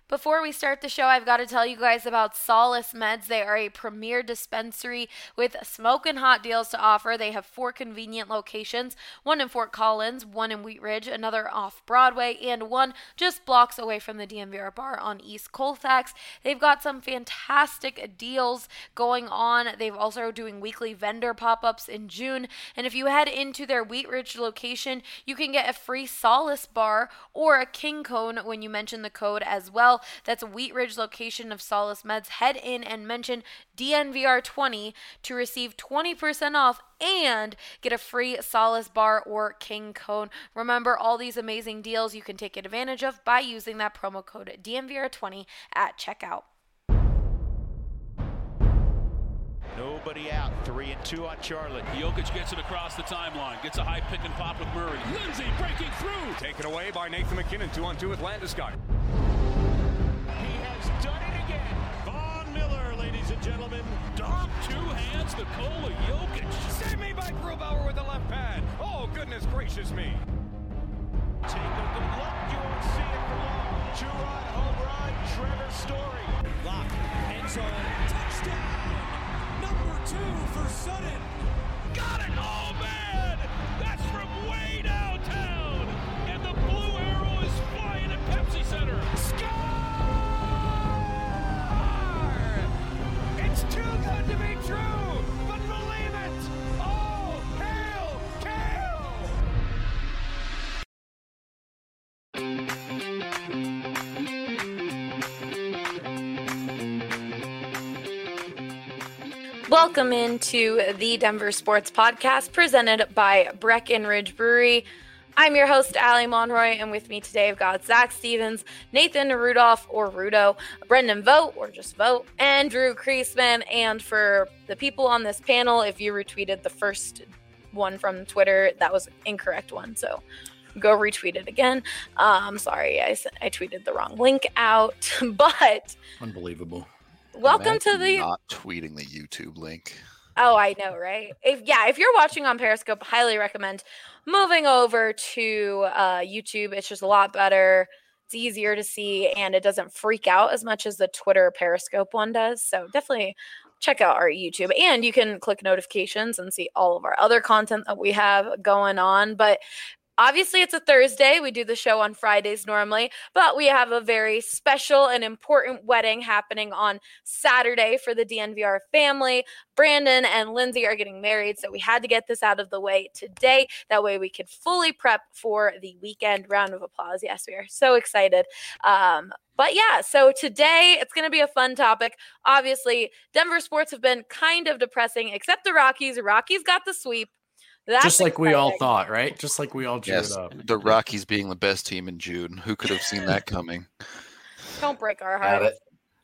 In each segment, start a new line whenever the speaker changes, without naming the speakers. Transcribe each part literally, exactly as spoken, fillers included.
Before we start the show, I've got to tell you guys about Solace Meds. They are a premier dispensary with smoking hot deals to offer. They have four convenient locations, one in Fort Collins, one in Wheat Ridge, another off Broadway, and one just blocks away from the D N V R bar on East Colfax. They've got some fantastic deals going on. They've also doing weekly vendor pop-ups in June. And if you head into their Wheat Ridge location, you can get a free Solace bar or a King Cone when you mention the code as well. That's a Wheat Ridge location of Solace Meds. Head in and mention D N V R twenty to receive twenty percent off and get a free Solace bar or King Cone. Remember, all these amazing deals you can take advantage of by using that promo code D N V R twenty at checkout.
Nobody out. Three and two on Charlotte.
Jokic gets it across the timeline. Gets a high pick and pop with Murray. Lindsay breaking through.
Taken away by Nathan McKinnon. Two on two with Landeskog.
He has done it again.
Von Miller, ladies and gentlemen. Dom, two hands, Nikola Jokic.
Save me by Grubauer with the left pad. Oh, goodness gracious me.
Take a good look. You won't see it for long. Two-run home run. Trevor Story.
Lock. End zone. Touchdown. Number two for Sutton.
Got it! Oh, man! That's from way downtown! And the blue arrow is flying at Pepsi Center.
Score! It's too good to be true, but believe it! Oh, hail, Kale!
Welcome into the Denver Sports Podcast presented by Breckenridge Brewery. I'm your host, Allie Monroy, and with me today I've got Zach Stevens, Nathan Rudolph, or Rudo, Brendan Vogt, or just Vogt, and Drew Kreisman. And for the people on this panel, if you retweeted the first one from Twitter, that was an incorrect one, so go retweet it again. Um, sorry, I, I tweeted the wrong link out, but...
Unbelievable.
Welcome
Imagine
to the...
not tweeting the YouTube link.
Oh, I know, right? If yeah, if you're watching on Periscope, highly recommend moving over to uh, YouTube. It's just a lot better. It's easier to see, and it doesn't freak out as much as the Twitter Periscope one does. So definitely check out our YouTube, and you can click notifications and see all of our other content that we have going on. But obviously, it's a Thursday. We do the show on Fridays normally, but we have a very special and important wedding happening on Saturday for the D N V R family. Brandon and Lindsay are getting married, so we had to get this out of the way today. That way we could fully prep for the weekend. Round of applause. Yes, we are so excited. Um, but yeah, so today it's going to be a fun topic. Obviously, Denver sports have been kind of depressing, except the Rockies. Rockies got the sweep. That's
Just like
exciting.
we all thought, right? Just like we all drew
Yes,
it up.
the Rockies being the best team in June. Who could have seen that coming?
Don't break our
Got
hearts.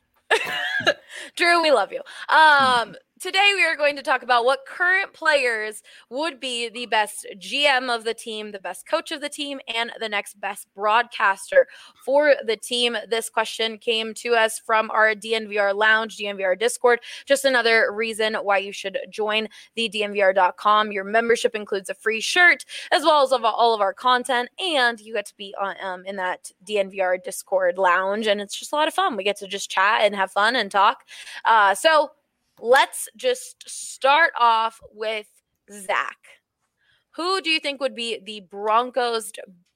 it.
Drew, we love you. Um, today we are going to talk about what current players would be the best G M of the team, the best coach of the team, and the next best broadcaster for the team. This question came to us from our D N V R Lounge, D N V R Discord. Just another reason why you should join the D N V R dot com. Your membership includes a free shirt as well as of all of our content, and you get to be on, um, in that D N V R Discord Lounge, and it's just a lot of fun. We get to just chat and have fun and talk. Uh, so let's just start off with Zach. Who do you think would be the Broncos'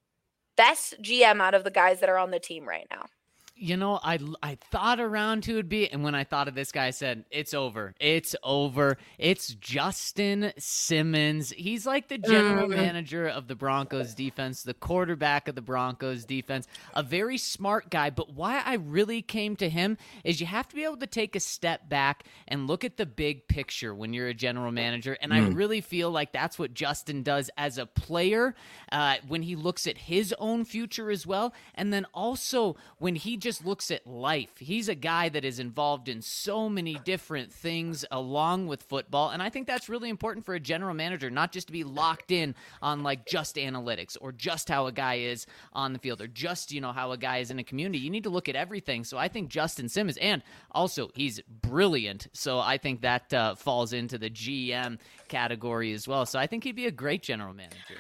best G M out of the guys that are on the team right now?
You know, I, I thought around who would be, and when I thought of this guy, I said, it's over. It's over. It's Justin Simmons. He's like the general
Mm-hmm.
manager of the Broncos defense, the quarterback of the Broncos defense, a very smart guy. But why I really came to him is you have to be able to take a step back and look at the big picture when you're a general manager. And mm. I really feel like that's what Justin does as a player uh, when he looks at his own future as well. And then also when he just just looks at life. He's a guy that is involved in so many different things along with football, and I think that's really important for a general manager, not just to be locked in on like just analytics or just how a guy is on the field or just, you know, how a guy is in a community. You need to look at everything. So I think Justin Simmons, and also he's brilliant, so I think that uh, falls into the G M category as well. So I think he'd be a great general manager.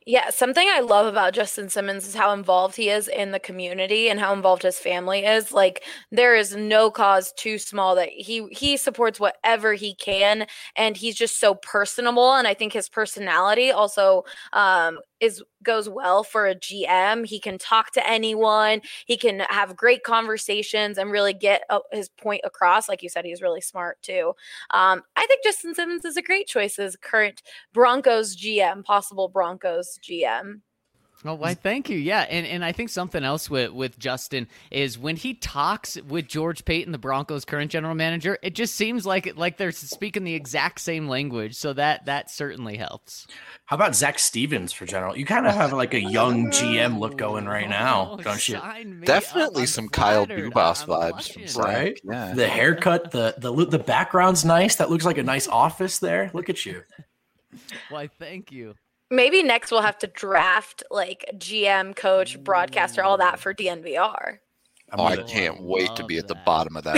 Yeah, something I love about Justin Simmons is how involved he is in the community and how involved his family is. Like, there is no cause too small that he he supports whatever he can, and he's just so personable. And I think his personality also um, is goes well for a G M. He can talk to anyone. He can have great conversations and really get uh, his point across. Like you said, he's really smart too. Um, I think Justin Simmons is a great choice as current Broncos G M, possible Broncos G M.
Oh, why? Thank you. Yeah, and and I think something else with with Justin is when he talks with George Paton, the Broncos' current general manager, it just seems like like they're speaking the exact same language. So that that certainly helps.
How about Zach Stevens for general? You kind of have like a young G M look going right now,
Oh,
don't you?
sign me
Definitely
up. I'm
some Kyle
flattered.
Dubas
I'm
vibes
blushing.
from Zach.
Right?
Yeah.
The haircut, the the the background's nice. That looks like a nice office there. Look at you.
Why? Thank you.
Maybe next we'll have to draft like G M, coach, broadcaster, all that for D N V R.
Oh, I
gonna-
can't wait to
love
be at the
that.
bottom of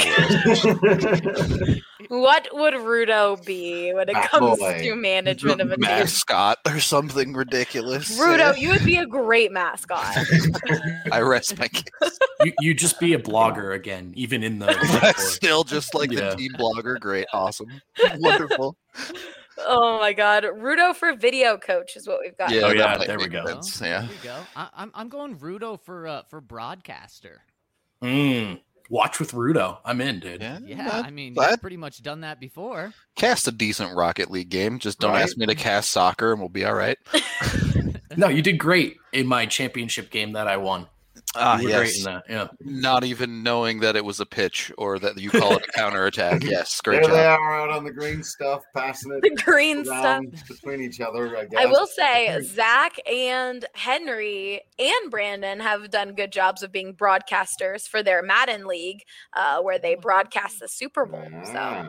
that list.
What would Rudo be when it
Ah,
comes
boy.
to management of a team?
Mascot or something ridiculous.
Rudo, you would be a great mascot.
I rest my case.
you you just be a blogger again, even in the
Still just like
Yeah.
the team blogger. Great. Awesome. Wonderful.
Oh my God, Rudo for video coach is what we've got.
Yeah,
Oh,
that
yeah,
might
there we
make
go.
sense,
Well,
Yeah.
There we go. I, I'm I'm going Rudo for uh, for broadcaster.
Mm, watch with Rudo. I'm in, dude.
Yeah.
Yeah,
that-
I mean,
that-
you've pretty much done that before.
Cast a decent Rocket League game. Just don't
Right.
ask me to cast soccer and we'll be all right.
No, you did great in my championship game that I won.
Ah,
you were
yes.
great in that. Yeah.
Not even knowing that it was a pitch or that you call it a counterattack. Yes, great
There they
job.
are out on the green stuff, passing
The
it
green stuff.
around between each other. I, guess.
I will say Zach and Henry and Brandon have done good jobs of being broadcasters for their Madden League, uh, where they broadcast the Super Bowl. So,
Ah.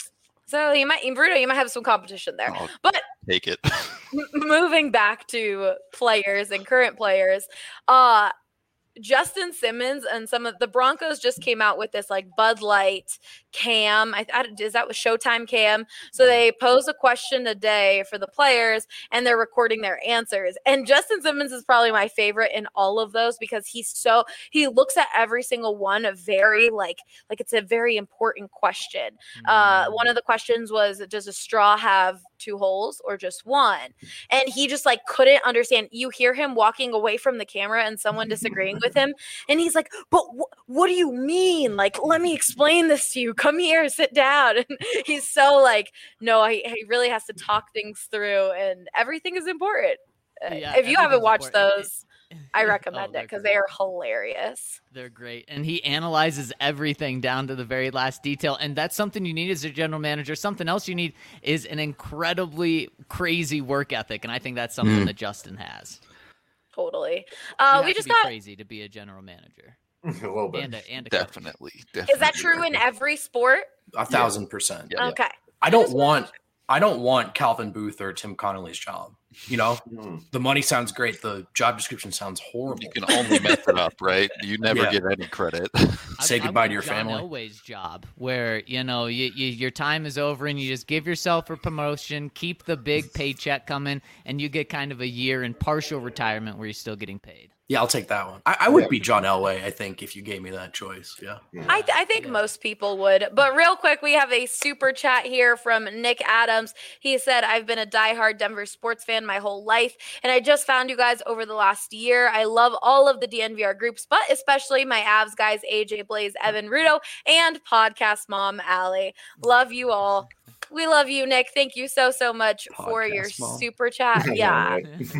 so you might, Bruno, you might have some competition there.
I'll
But
take it.
m- moving back to players and current players, uh, Justin Simmons and some of the Broncos just came out with this like Bud Light cam. I, I is that was Showtime cam. So they pose a question a day for the players and they're recording their answers. And Justin Simmons is probably my favorite in all of those because he's so he looks at every single one very like like it's a very important question. Uh, one of the questions was, does a straw have two holes or just one? And he just like couldn't understand. You hear him walking away from the camera and someone disagreeing with him, and he's like, but wh- what do you mean? Like, let me explain this to you. Come here, sit down. And he's so like, no, he, he really has to talk things through, and everything is important. Uh,
Yeah,
if you haven't
everything's
watched
important.
those, I recommend
Oh,
it
they're
because
great.
they are hilarious.
They're great. And he analyzes everything down to the very last detail. And that's something you need as a general manager. Something else you need is an incredibly crazy work ethic. And I think that's something
Mm.
that Justin has.
Totally.
You
Uh,
have
we
to
just
be
got.
crazy to be a general manager.
a little bit.
And a, and a coach.
Definitely. Definitely.
Is that true in every sport?
A thousand percent.
Yeah.
Okay.
I don't want I don't want Calvin Booth or Tim Connolly's job. You know,
Hmm.
the money sounds great. The job description sounds horrible.
You can only mess it up, right? You never
Yeah.
get any credit.
Say
I- I
goodbye
want
to your
John
family.
Elway's job, where you know you, you, your time is over and you just give yourself a promotion, keep the big paycheck coming, and you get kind of a year in partial retirement where you're still getting paid.
Yeah, I'll take that one. I, I would be John Elway, I think, if you gave me that choice. Yeah.
I, th- I think most people would. But real quick, we have a super chat here from Nick Adams. He said, I've been a diehard Denver sports fan my whole life, and I just found you guys over the last year. I love all of the D N V R groups, but especially my Avs guys, A J, Blaze, Evan, Rudo, and podcast mom, Allie. Love you all. We love you, Nick. Thank you so, so much for your
Podcast mom.
super chat. Yeah.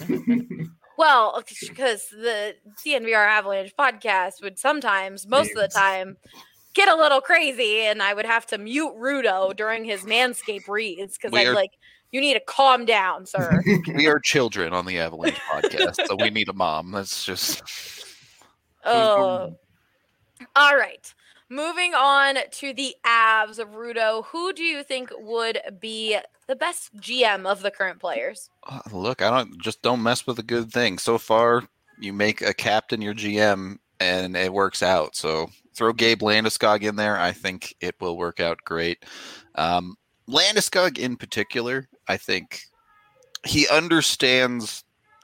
Well, because the D N V R Avalanche podcast would sometimes, most of the time, get a little crazy, and I would have to mute Rudo during his Manscaped reads because
We
I'm
are-
like, you need to calm down, sir.
We are children on the Avalanche podcast, so we need a mom. That's just
Oh. All right. Moving on to the Avs of Rudo. Who do you think would be the best G M of the current players?
uh, look. I don't just don't mess with a good thing. So far, you make a captain your G M, and it works out. So throw Gabe Landeskog in there. I think it will work out great. Um, Landeskog in particular, I think he understands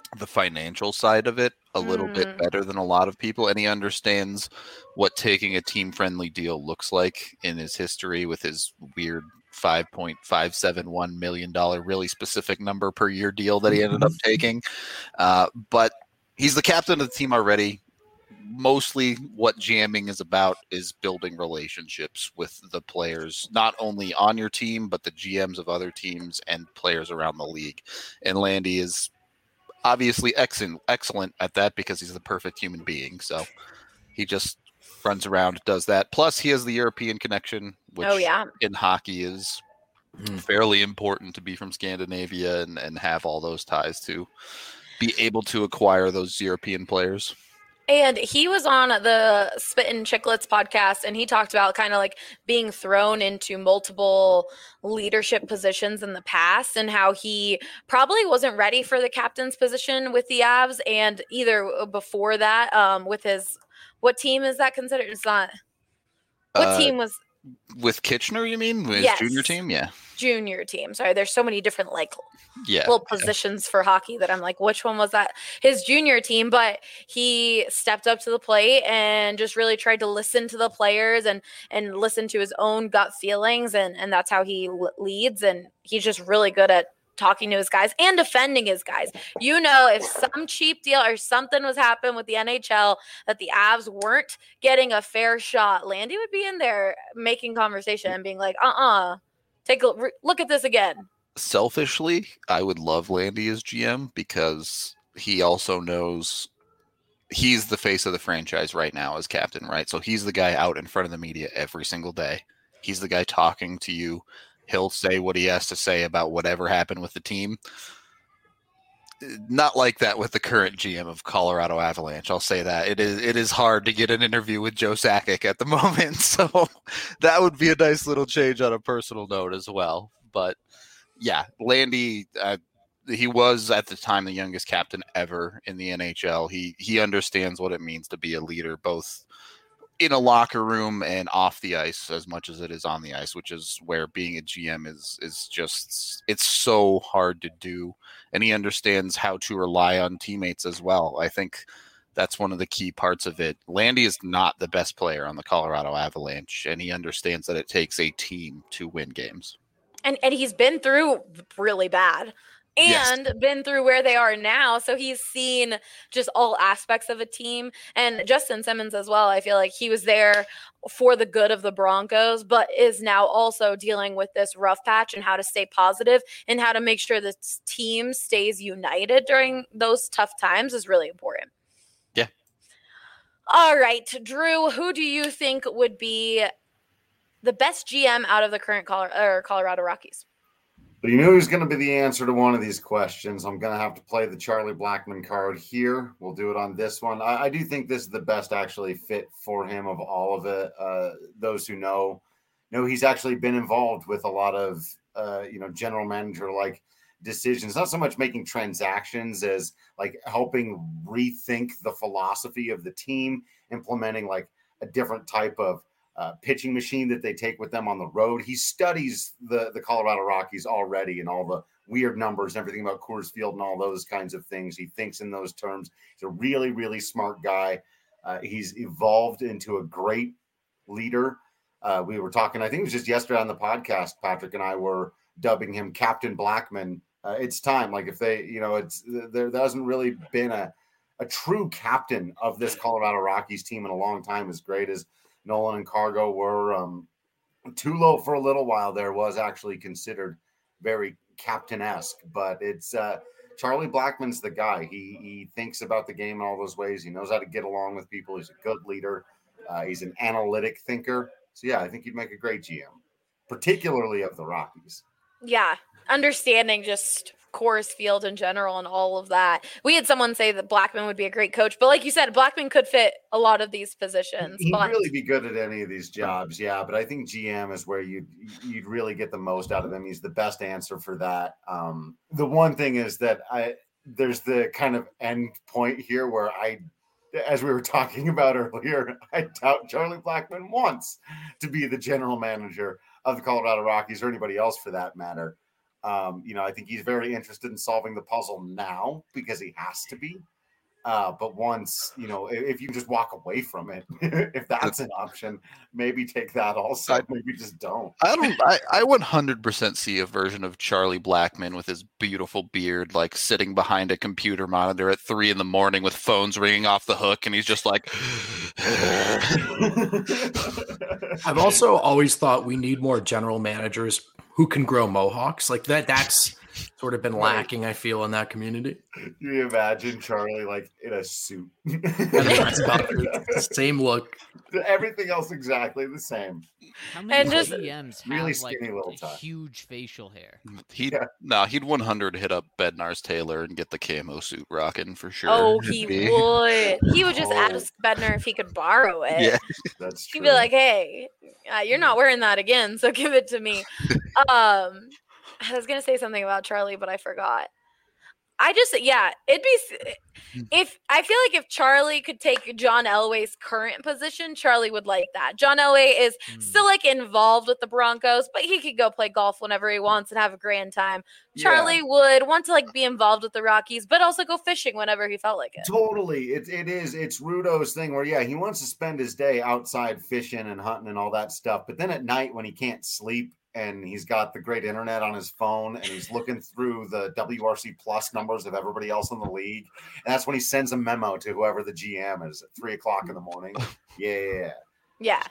the financial side of it a little
Mm.
bit better than a lot of people, and he understands what taking a team-friendly deal looks like in his history with his weird five point five seven one million dollars really specific number per year deal that he ended up taking. Uh, but he's the captain of the team already. Mostly what GMing is about is building relationships with the players, not only on your team, but the G Ms of other teams and players around the league. And Landy is obviously excellent, excellent at that because he's the perfect human being. So he just runs around, does that. Plus, he has the European connection, which
Oh, yeah.
in hockey is fairly important to be from Scandinavia and, and have all those ties to be able to acquire those European players.
And he was on the Spittin' Chicklets podcast, and he talked about kind of like being thrown into multiple leadership positions in the past and how he probably wasn't ready for the captain's position with the Avs, and either before that um, with his – what team is that considered? It's not – what
Uh,
team was –
With Kitchener, you mean? With his
Yes.
junior team? Yeah.
Junior team. Sorry, there's so many different like
Yeah.
little positions for hockey that I'm like, which one was that? His junior team, but he stepped up to the plate and just really tried to listen to the players and and listen to his own gut feelings, and and that's how he l- leads. And he's just really good at talking to his guys and defending his guys. You know, if some cheap deal or something was happening with the N H L that the Avs weren't getting a fair shot, Landy would be in there making conversation and being like, uh-uh, take a re- look at this again.
Selfishly, I would love Landy as G M because he also knows he's the face of the franchise right now as captain, right? So he's the guy out in front of the media every single day. He's the guy talking to you. He'll say what he has to say about whatever happened with the team. Not like that with the current G M of Colorado Avalanche. I'll say that. It is it is hard to get an interview with Joe Sakic at the moment. So that would be a nice little change on a personal note as well. But yeah, Landy, uh, he was at the time the youngest captain ever in the N H L. He he understands what it means to be a leader, both in a locker room and off the ice as much as it is on the ice, which is where being a G M is is just, it's so hard to do. And he understands how to rely on teammates as well. I think that's one of the key parts of it. Landy is not the best player on the Colorado Avalanche, and he understands that it takes a team to win games.
And and he's been through really bad and
Yes.
been through where they are now. So he's seen just all aspects of a team. And Justin Simmons as well, I feel like he was there for the good of the Broncos, but is now also dealing with this rough patch and how to stay positive and how to make sure the team stays united during those tough times is really important.
Yeah.
All right, Drew, who do you think would be the best G M out of the current Colo- or Colorado Rockies?
But you knew he was going to be the answer to one of these questions. I'm going to have to play the Charlie Blackmon card here. We'll do it on this one. I, I do think this is the best actually fit for him of all of it. Uh, those who know, know he's actually been involved with a lot of, uh, you know, general manager like decisions, not so much making transactions as like helping rethink the philosophy of the team, implementing like a different type of Uh, pitching machine that they take with them on the road. He studies the, the Colorado Rockies already and all the weird numbers and everything about Coors Field and all those kinds of things. He thinks in those terms. He's a really, really smart guy. Uh, he's evolved into a great leader. Uh, we were talking, I think it was just yesterday on the podcast, Patrick and I were dubbing him Captain Blackmon. Uh, it's time. Like if they, you know, it's there, there hasn't really been a, a true captain of this Colorado Rockies team in a long time, as great as Nolan and Cargo were. um, Tulo for a little while there was actually considered very captain-esque, but it's uh, Charlie Blackmon's the guy. He he thinks about the game in all those ways. He knows how to get along with people. He's a good leader. Uh, he's an analytic thinker. So yeah, I think he'd make a great G M, particularly of the Rockies.
Yeah, understanding just Coors Field in general and all of that. We had someone say that Blackmon would be a great coach, but like you said, Blackmon could fit a lot of these positions.
He'd
but
really be good at any of these jobs, yeah. But I think G M is where you'd you'd really get the most out of him. He's the best answer for that. Um, the one thing is that I there's the kind of end point here where I, as we were talking about earlier, I doubt Charlie Blackmon wants to be the general manager of the Colorado Rockies or anybody else for that matter. Um, you know, I think he's very interested in solving the puzzle now because he has to be. Uh, but once, you know, if, if you just walk away from it, if that's an option, maybe take that also.
I,
maybe just don't.
I don't. I, I one hundred percent see a version of Charlie Blackmon with his beautiful beard, like sitting behind a computer monitor at three in the morning with phones ringing off the hook, and he's just like.
I've also always thought we need more general managers who can grow mohawks like that. That's sort of been lacking, I feel, in that community.
You imagine Charlie like in a suit.
Same look.
Everything else exactly the same.
How many
And just-
G Ms have
Really
like
skinny little tie.
huge facial hair?
He'd
Yeah.
no, he'd one hundred hit up Bednar's Taylor and get the camo suit rocking for sure.
Oh,
It'd
he
be-
would. He would just
Oh.
ask Bednar if he could borrow it.
Yeah.
That's true.
He'd be like, "Hey, uh, you're not wearing that again, so give it to me." um, I was gonna say something about Charlie, but I forgot. I just, yeah, it'd be s- if I feel like if Charlie could take John Elway's current position, Charlie would like that. John Elway is
Hmm.
still like involved with the Broncos, but he could go play golf whenever he wants and have a grand time. Charlie
Yeah.
would want to like be involved with the Rockies, but also go fishing whenever he felt like it.
Totally. It, it is. It's Rudo's thing where, yeah, he wants to spend his day outside fishing and hunting and all that stuff. But then at night when he can't sleep and he's got the great internet on his phone and he's looking through the W R C plus numbers of everybody else in the league. And that's when he sends a memo to whoever the G M is at three o'clock in the morning. Yeah.
Yeah.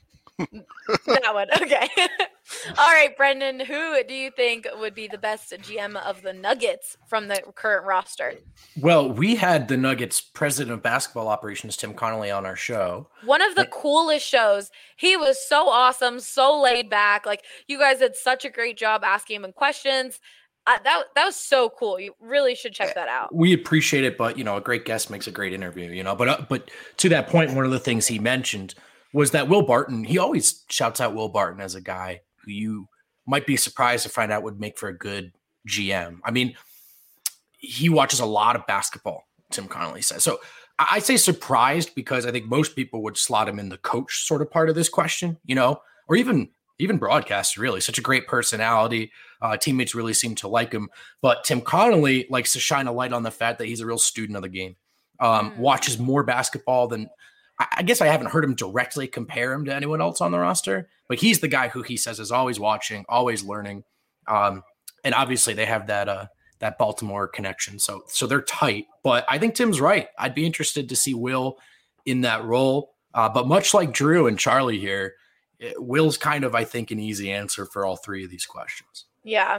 That one. Okay. All right, Brendan, who do you think would be the best G M of the Nuggets from the current roster?
Well, we had the Nuggets president of basketball operations, Tim Connolly, on our show.
One of the coolest shows. He was so awesome, so laid back. Like, you guys did such a great job asking him questions. Uh, that that was so cool. You really should check that out.
We appreciate it, but you know, a great guest makes a great interview. You know, but uh, but to that point, one of the things he mentioned was that Will Barton. He always shouts out Will Barton as a guy who you might be surprised to find out would make for a good G M. I mean, he watches a lot of basketball. Tim Connolly says so. I I say surprised because I think most people would slot him in the coach sort of part of this question. You know, or even. Even broadcaster, really. Such a great personality. Uh, teammates really seem to like him. But Tim Connolly likes to shine a light on the fact that he's a real student of the game. Um,
Mm.
Watches more basketball than I, I guess I haven't heard him directly compare him to anyone else on the roster. But he's the guy who he says is always watching, always learning. Um, and obviously they have that uh, that Baltimore connection. So so they're tight. But I think Tim's right. I'd be interested to see Will in that role. Uh, but much like Drew and Charlie here, Will's kind of, I think, an easy answer for all three of these questions.
Yeah.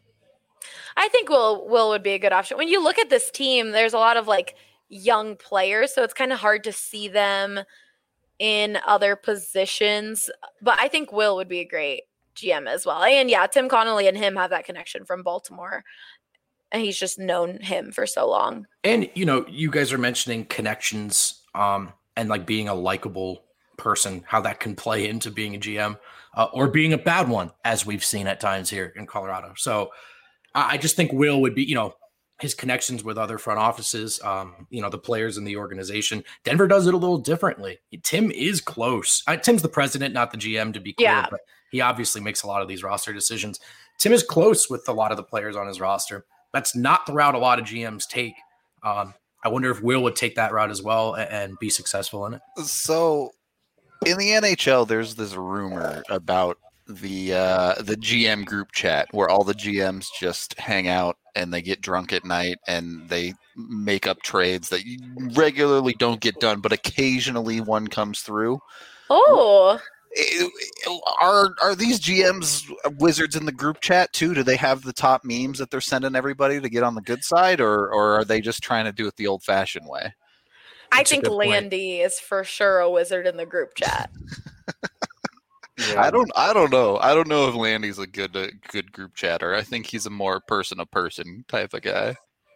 I think Will Will would be a good option. When you look at this team, there's a lot of like young players, so it's kind of hard to see them in other positions. But I think Will would be a great G M as well. And yeah, Tim Connolly and him have that connection from Baltimore. And he's just known him for so long.
And, you know, you guys are mentioning connections um, and like being a likable person, how that can play into being a G M uh, or being a bad one, as we've seen at times here in Colorado. So I I just think Will would be, you know, his connections with other front offices, um, you know, the players in the organization. Denver does it a little differently. Tim is close. Uh, Tim's the president, not the G M, to be clear,
Yeah.
but he obviously makes a lot of these roster decisions. Tim is close with a lot of the players on his roster. That's not the route a lot of G Ms take. Um, I wonder if Will would take that route as well and, and be successful in it.
So in the N H L, there's this rumor about the uh, the G M group chat where all the G Ms just hang out and they get drunk at night and they make up trades that regularly don't get done, but occasionally one comes through.
Oh,
Are are these G Ms wizards in the group chat too? Do they have the top memes that they're sending everybody to get on the good side, or or are they just trying to do it the old fashioned way?
I
That's a
think
good point.
Landy is for sure a wizard in the group chat.
Yeah.
I don't I don't know. I don't know if Landy's a good uh, good group chatter. I think he's a more person to person type of guy.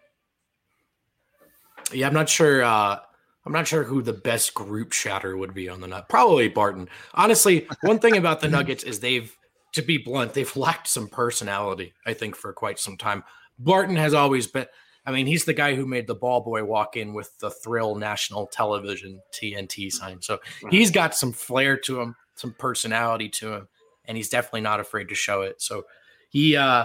Yeah, I'm not sure. Uh, I'm not sure who the best group chatter would be on the Nut. Probably Barton. Honestly, one thing about the Nuggets is they've, to be blunt, they've lacked some personality, I think, for quite some time. Barton has always been, I mean, he's the guy who made the ball boy walk in with the Thrill National Television T N T sign. So he's got some flair to him, some personality to him, and he's definitely not afraid to show it. So he, uh,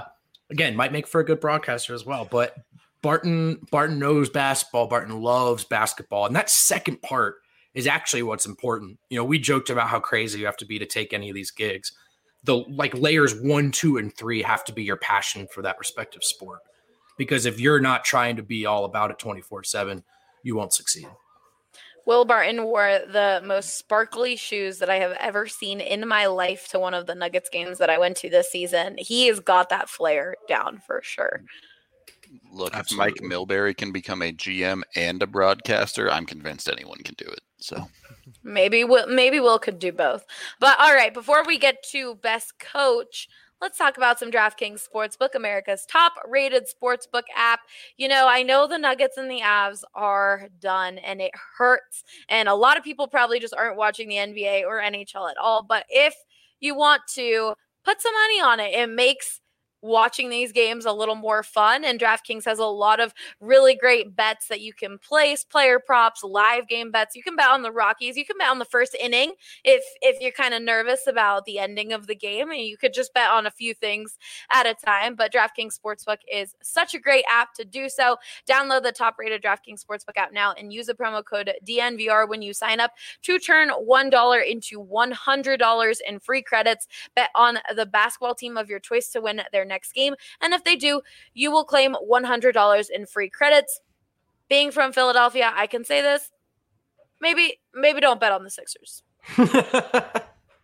again, might make for a good broadcaster as well. But Barton, Barton knows basketball. Barton loves basketball. And that second part is actually what's important. You know, we joked about how crazy you have to be to take any of these gigs. The like layers one, two, and three have to be your passion for that respective sport. Because if you're not trying to be all about it twenty-four seven, you won't succeed.
Will Barton wore the most sparkly shoes that I have ever seen in my life to one of the Nuggets games that I went to this season. He has got that flair down for sure.
Look,
Absolutely.
if Mike Milbury can become a G M and a broadcaster, I'm convinced anyone can do it. So
maybe Will, maybe Will could do both. But all right, before we get to best coach, let's talk about some DraftKings Sportsbook, America's top-rated sportsbook app. You know, I know the Nuggets and the Avs are done, and it hurts. And a lot of people probably just aren't watching the N B A or N H L at all. But if you want to put some money on it, it makes watching these games a little more fun, and DraftKings has a lot of really great bets that you can place, player props, live game bets. You can bet on the Rockies, you can bet on the first inning if if you're kind of nervous about the ending of the game, and you could just bet on a few things at a time. But DraftKings Sportsbook is such a great app to do so. Download the top-rated DraftKings Sportsbook app now and use the promo code D N V R when you sign up to turn one dollar into one hundred dollars in free credits. Bet on the basketball team of your choice to win their next game, and if they do, you will claim one hundred dollars in free credits. Being from Philadelphia, I can say this: maybe, maybe don't bet on the Sixers. uh,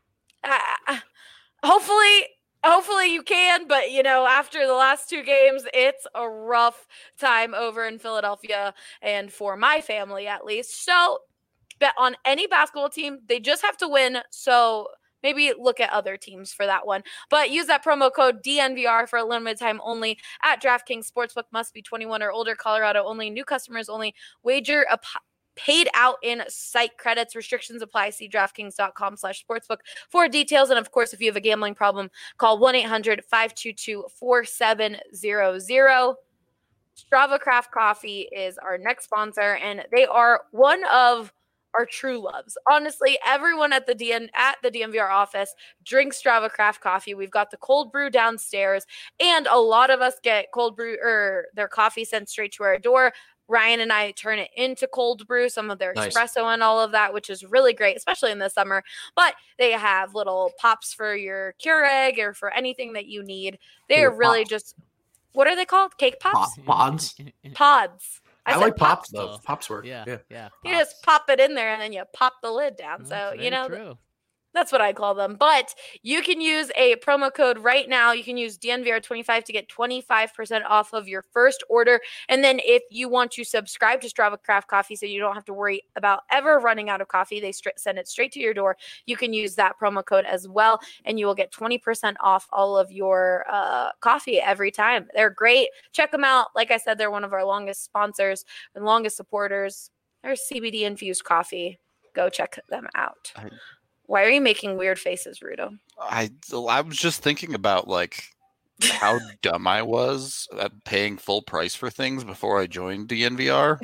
hopefully, hopefully you can, but you know, after the last two games, it's a rough time over in Philadelphia, and for my family at least. So, bet on any basketball team; they just have to win. So. Maybe look at other teams for that one. But use that promo code D N V R for a limited time only at DraftKings Sportsbook. Must be twenty-one or older. Colorado only. New customers only. Wager ap- paid out in site credits. Restrictions apply. See DraftKings.com slash sportsbook for details. And, of course, if you have a gambling problem, call one eight hundred five two two four seven zero zero. Strava Craft Coffee is our next sponsor, and they are one of our true loves. Honestly, everyone at the D N at the D N V R office drinks Strava Craft coffee. We've got the cold brew downstairs, and a lot of us get cold brew or their coffee sent straight to our door. Ryan and I turn it into cold brew, some of their
Nice.
espresso and all of that, which is really great, especially in the summer. But they have little pops for your Keurig or for anything that you need. They are
Little
really
pops.
just, what are they called? Cake pops?
Pop- Pods.
Pods.
I,
said
like pops,
pops.
though. Pops work.
Yeah,
Yeah.
yeah.
You just pop it in there and then you pop the lid down.
That's
So,
very
you know,
true.
that's what I call them. But you can use a promo code right now. You can use D N V R twenty-five to get twenty-five percent off of your first order. And then if you want to subscribe to Strava Craft Coffee so you don't have to worry about ever running out of coffee, they stri- send it straight to your door. You can use that promo code as well, and you will get twenty percent off all of your uh, coffee every time. They're great. Check them out. Like I said, they're one of our longest sponsors and longest supporters. They're C B D-infused coffee. Go check them out.
I-
Why are you making weird faces, Rudo?
I I was just thinking about like how dumb I was at paying full price for things before I joined D N V R.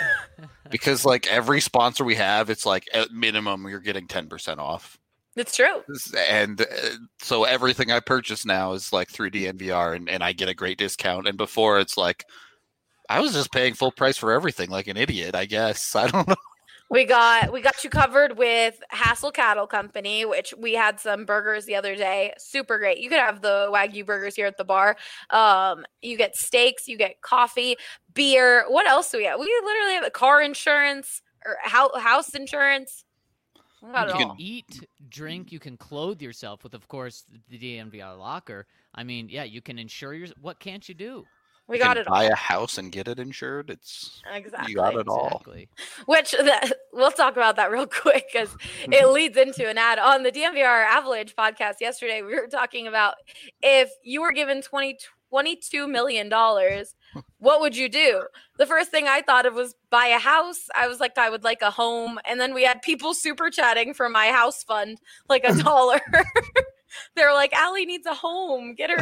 Because like every sponsor we have, it's like at minimum you're getting ten percent off.
It's true.
And uh, so everything I purchase now is like through D N V R, and, and I get a great discount. And before it's like I was just paying full price for everything like an idiot, I guess. I don't know.
We got we got you covered with Hassel Cattle Company, which we had some burgers the other day. Super great. You could have the Wagyu burgers here at the bar. Um, you get steaks, you get coffee, beer. What else do we have? We literally have a car insurance or house house insurance. We got
You
it
can
all.
eat, drink, you can clothe yourself with, of course, the D N V R locker. I mean, yeah, you can insure your. What can't you do?
We
You
got
can
it all.
buy a house and get it insured. It's
Exactly.
you got it all.
Exactly.
Which the, we'll talk about that real quick because it leads into an ad on the D N V R Avalanche podcast yesterday. We were talking about if you were given twenty, twenty-two million dollars, what would you do? The first thing I thought of was buy a house. I was like, I would like a home. And then we had people super chatting for my house fund, like a dollar. They were like, Allie needs a home. Get her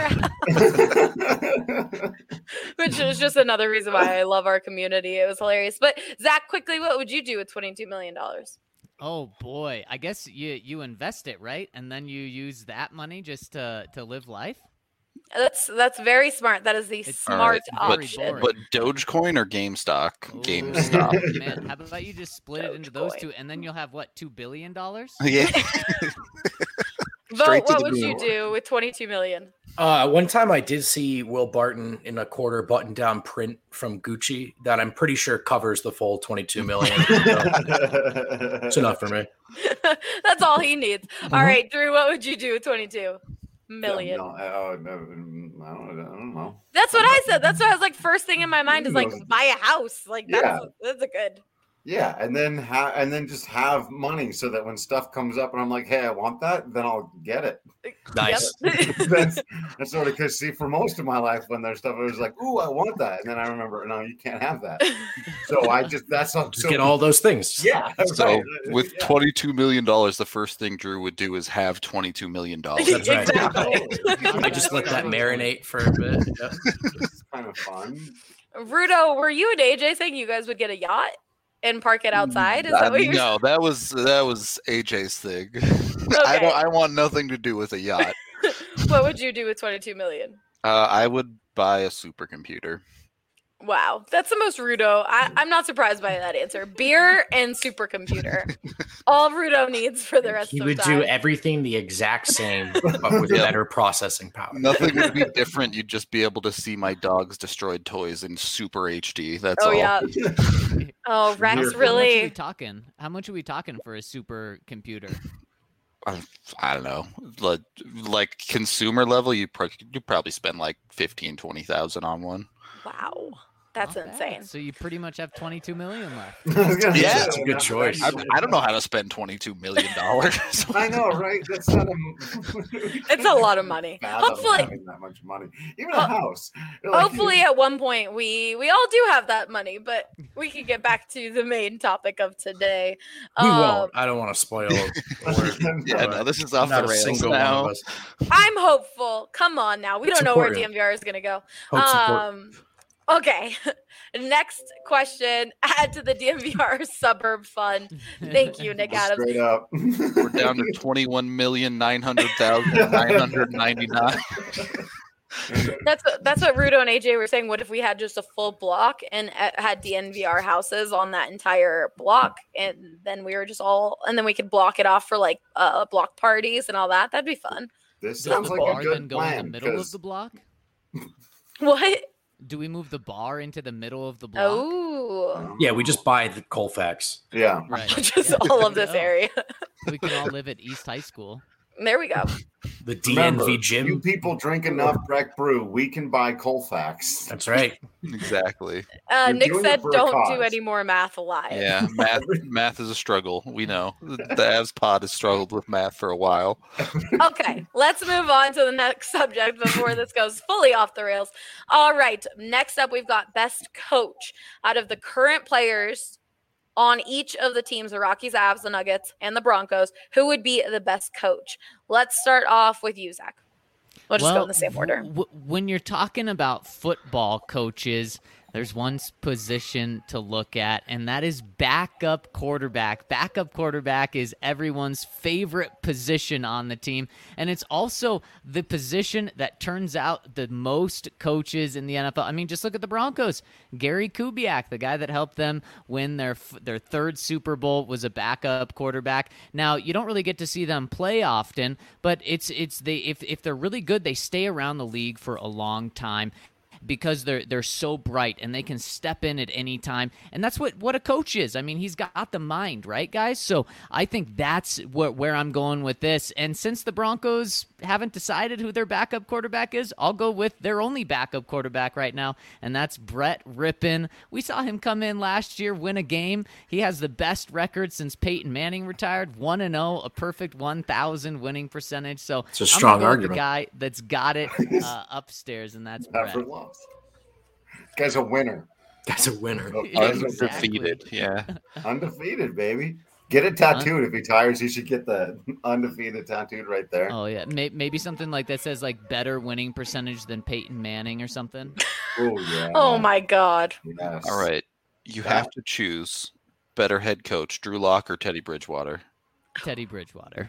out. Which is just another reason why I love our community. It was hilarious. But Zach, quickly, what would you do with twenty-two million dollars?
Oh boy, I guess you you invest it, right, and then you use that money just to to live life.
That's that's very smart. That is the
It's
smart
All right,
option.
But Dogecoin or GameStop?
Ooh,
GameStop.
Man, how about you just split it into those
Dogecoin.
two, and then you'll have what, two billion dollars?
Yeah.
Vote,
Straight to
what
the
would you
moon.
do with twenty-two million?
Uh, one time I did see Will Barton in a quarter button down print from Gucci that I'm pretty sure covers the full twenty-two million. So it's enough for me.
That's all he needs.
Mm-hmm.
All right, Drew, what would you do with twenty-two million?
No, uh, no, I, don't, I don't know.
That's what I said. That's what I was like. First thing in my mind is like
Yes.
buy a house. Like that's
Yeah.
that's a good.
Yeah, and then ha- and then just have money so that when stuff comes up and I'm like, hey, I want that, then I'll get it.
Nice.
Yep.
that's, that's sort of because see, for most of my life, when there's stuff, I was like, ooh, I want that, and then I remember, no, you can't have that. So I just that's all.
Just
so,
get all those things.
Yeah.
So
right.
with
Yeah.
twenty-two million dollars, the first thing Drew would do is have twenty-two million dollars.
That's right.
Exactly.
I just let that marinate for a bit. Yeah.
It's kind of fun.
Rudo, were you and A J saying you guys would get a yacht and park it outside? Is
Uh,
that what you're
no, that was that was A J's thing. I
Okay.
don't. I want nothing to do with a yacht.
What would you do with twenty-two million?
Uh, I would buy a supercomputer.
Wow, that's the most Rudo. I, I'm not surprised by that answer. Beer and supercomputer. All Rudo needs for the rest
He
of
would
time.
do everything the exact same, but with
Yeah.
better processing power.
Nothing would be different. You'd just be able to see my dog's destroyed toys in super H D. That's
Oh
all.
yeah. Oh, Rex,
How much are we
really?
talking? How much are we talking for a supercomputer?
I, I don't know. Like, like consumer level, you pro- you probably spend like fifteen, twenty thousand on one.
Wow, that's
Not bad.
insane.
So you pretty much have twenty-two million left.
Yeah,
that's a good choice.
I, I don't know how to spend twenty-two million dollars.
I know, right? That's not a.
It's a lot of money.
Fathom
Hopefully,
having that much money, even
Ho-
a house. You're like,
hopefully at one point we we all do have that money, but we can get back to the main topic of today.
We
Um,
won't. I don't want to spoil it.
Yeah, no, this is off
Not
the
a
rails
single one
now.
of us.
I'm hopeful. Come on now. We
It's
don't know where
important.
D M V R is going to go.
Hope's important.
Um, okay. Next question. Add to the D M V R suburb fund. Thank you, Nick Adams.
Straight up.
We're down to twenty-one million nine hundred thousand nine hundred ninety-nine.
That's what, that's what Rudo and A J were saying. What if we had just a full block and uh, had D N V R houses on that entire block, and then we were just all, and then we could block it off for like uh, block parties and all that. That'd be fun.
This
Does
sounds
the
like
bar
a
then
good
go in the
plan.
middle of
'cause-
the block?
What?
Do we move the bar into the middle of the block?
Oh,
Yeah, we just buy the Colfax.
Yeah.
Right.
just
Yeah,
all
there
of
we
this
go.
area.
We can all live at East High School.
There we go.
The D N V
Remember,
gym.
You people drink enough Breck Brew, we can buy Colfax.
That's right.
Exactly.
Uh,
You're
Nick
doing it
said,
for a
"Don't do
cause."
any more math live."
Yeah, math math is a struggle. We know. The Avs pod has struggled with math for a while.
Okay, let's move on to the next subject before this goes fully off the rails. All right, next up, we've got best coach out of the current players on each of the teams, the Rockies, Avs, the Nuggets, and the Broncos. Who would be the best coach? Let's start off with you, Zach. We'll just go in the same order.
w- w- when you're talking about football coaches, there's one s- position to look at, and that is backup quarterback. Backup quarterback is everyone's favorite position on the team, and it's also the position that turns out the most coaches in the N F L. I mean, just look at the Broncos. Gary Kubiak, the guy that helped them win their f- their third Super Bowl, was a backup quarterback. Now, you don't really get to see them play often, but it's it's they if if they're really good, they stay around the league for a long time, because they're they're so bright and they can step in at any time. And that's what, what a coach is. I mean, he's got the mind, right, guys? So I think that's where, where I'm going with this. And since the Broncos haven't decided who their backup quarterback is, I'll go with their only backup quarterback right now, and that's Brett Rippon. We saw him come in last year, win a game. He has the best record since Peyton Manning retired, one and oh, a perfect one thousand winning percentage. So
It's a
I'm
strong
gonna go with
argument.
the guy that's got it uh, upstairs, and that's Brett.
Never lost. Guy's a winner.
That's a winner.
Undefeated. Yeah.
Undefeated, baby. Get it tattooed. If he tires, he should get the undefeated tattooed right there.
Oh yeah, May- maybe something like that says like better winning percentage than Peyton Manning or something.
Oh, yeah.
Oh my God.
Yes.
All right. You have to choose better head coach, Drew Lock or Teddy Bridgewater.
Teddy Bridgewater.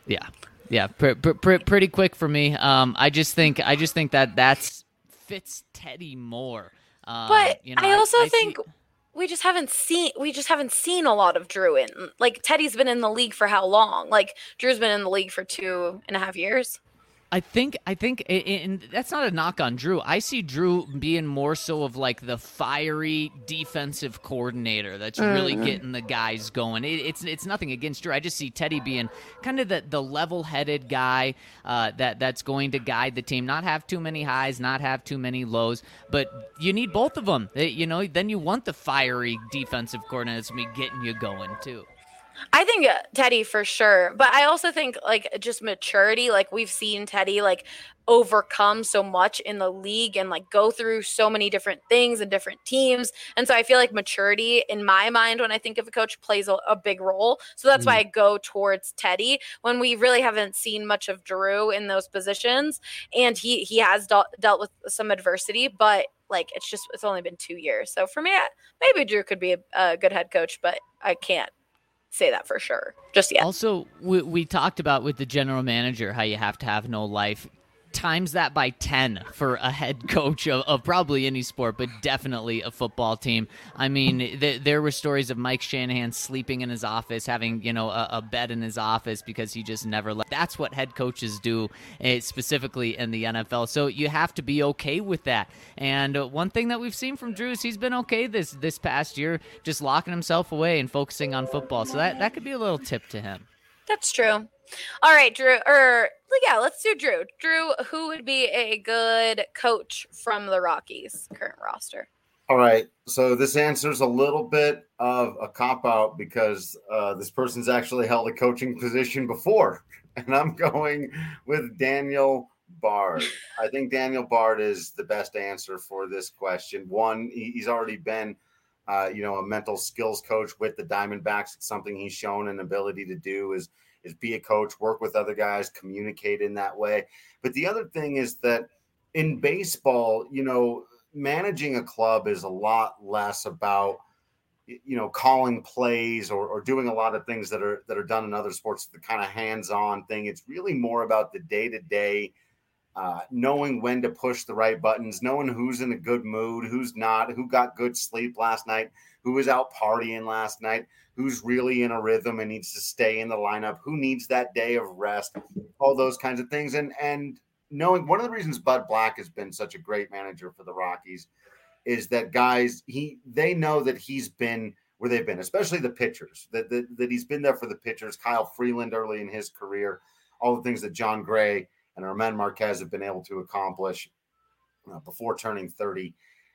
Yeah, yeah, pr- pr- pr- pretty quick for me. Um, I just think I just think that that's fits Teddy more. Um,
But
you know,
I also
I, I
think
see,
we just haven't seen we just haven't seen a lot of Drew in. Like Teddy's been in the league for how long? Like Drew's been in the league for two and a half years.
I think I think and that's not a knock on Drew. I see Drew being more so of like the fiery defensive coordinator that's really
Mm.
getting the guys going. It, it's it's nothing against Drew. I just see Teddy being kind of the, the level-headed guy uh, that that's going to guide the team, not have too many highs, not have too many lows. But you need both of them. You know, then you want the fiery defensive coordinator that's gonna be getting you going too.
I think uh, Teddy for sure, but I also think like just maturity. Like we've seen Teddy like overcome so much in the league and like go through so many different things and different teams, and so I feel like maturity in my mind when I think of a coach plays a, a big role. So that's mm. why I go towards Teddy when we really haven't seen much of Drew in those positions, and he he has de- dealt with some adversity, but like it's just it's only been two years. So for me, maybe Drew could be a, a good head coach, but I can't say that for sure just yet.
Also, we, we talked about with the general manager how you have to have no life. Times that by ten for a head coach of, of probably any sport, but definitely a football team. I mean, th- there were stories of Mike Shanahan sleeping in his office, having, you know, a, a bed in his office because he just never left. That's what head coaches do, uh, specifically in the N F L. So you have to be okay with that. And uh, one thing that we've seen from Drew is he's been okay this this past year, just locking himself away and focusing on football. So that, that could be a little tip to him.
That's true. All right, Drew, or yeah, let's do Drew. Drew, who would be a good coach from the Rockies current roster?
All right. So this answers a little bit of a cop-out because uh, this person's actually held a coaching position before. And I'm going with Daniel Bard. I think Daniel Bard is the best answer for this question. One, he's already been, uh, you know, a mental skills coach with the Diamondbacks. It's something he's shown an ability to do is is be a coach, work with other guys, communicate in that way. But the other thing is that in baseball, you know, managing a club is a lot less about, you know, calling plays or, or doing a lot of things that are that are done in other sports, the kind of hands-on thing. It's really more about the day-to-day, uh, knowing when to push the right buttons, knowing who's in a good mood, who's not, who got good sleep last night, who was out partying last night, who's really in a rhythm and needs to stay in the lineup, who needs that day of rest, all those kinds of things. And and knowing one of the reasons Bud Black has been such a great manager for the Rockies is that guys, he they know that he's been where they've been, especially the pitchers, that, that, that he's been there for the pitchers. Kyle Freeland early in his career, all the things that John Gray and Armand Marquez have been able to accomplish uh, before turning thirty.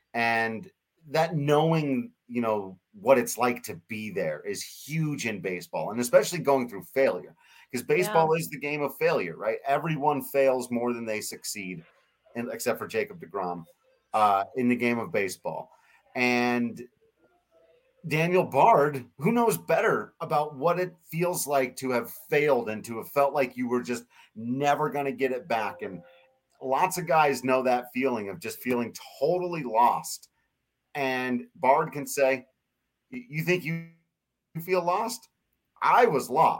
And that knowing, you know, what it's like to be there is huge in baseball, and especially going through failure, because baseball yeah. is the game of failure, right? Everyone fails more than they succeed, and except for Jacob deGrom uh, in the game of baseball. And Daniel Bard, who knows better about what it feels like to have failed and to have felt like you were just never going to get it back. And lots of guys know that feeling of just feeling totally lost. And Bard can say, you think you feel lost? I was lost.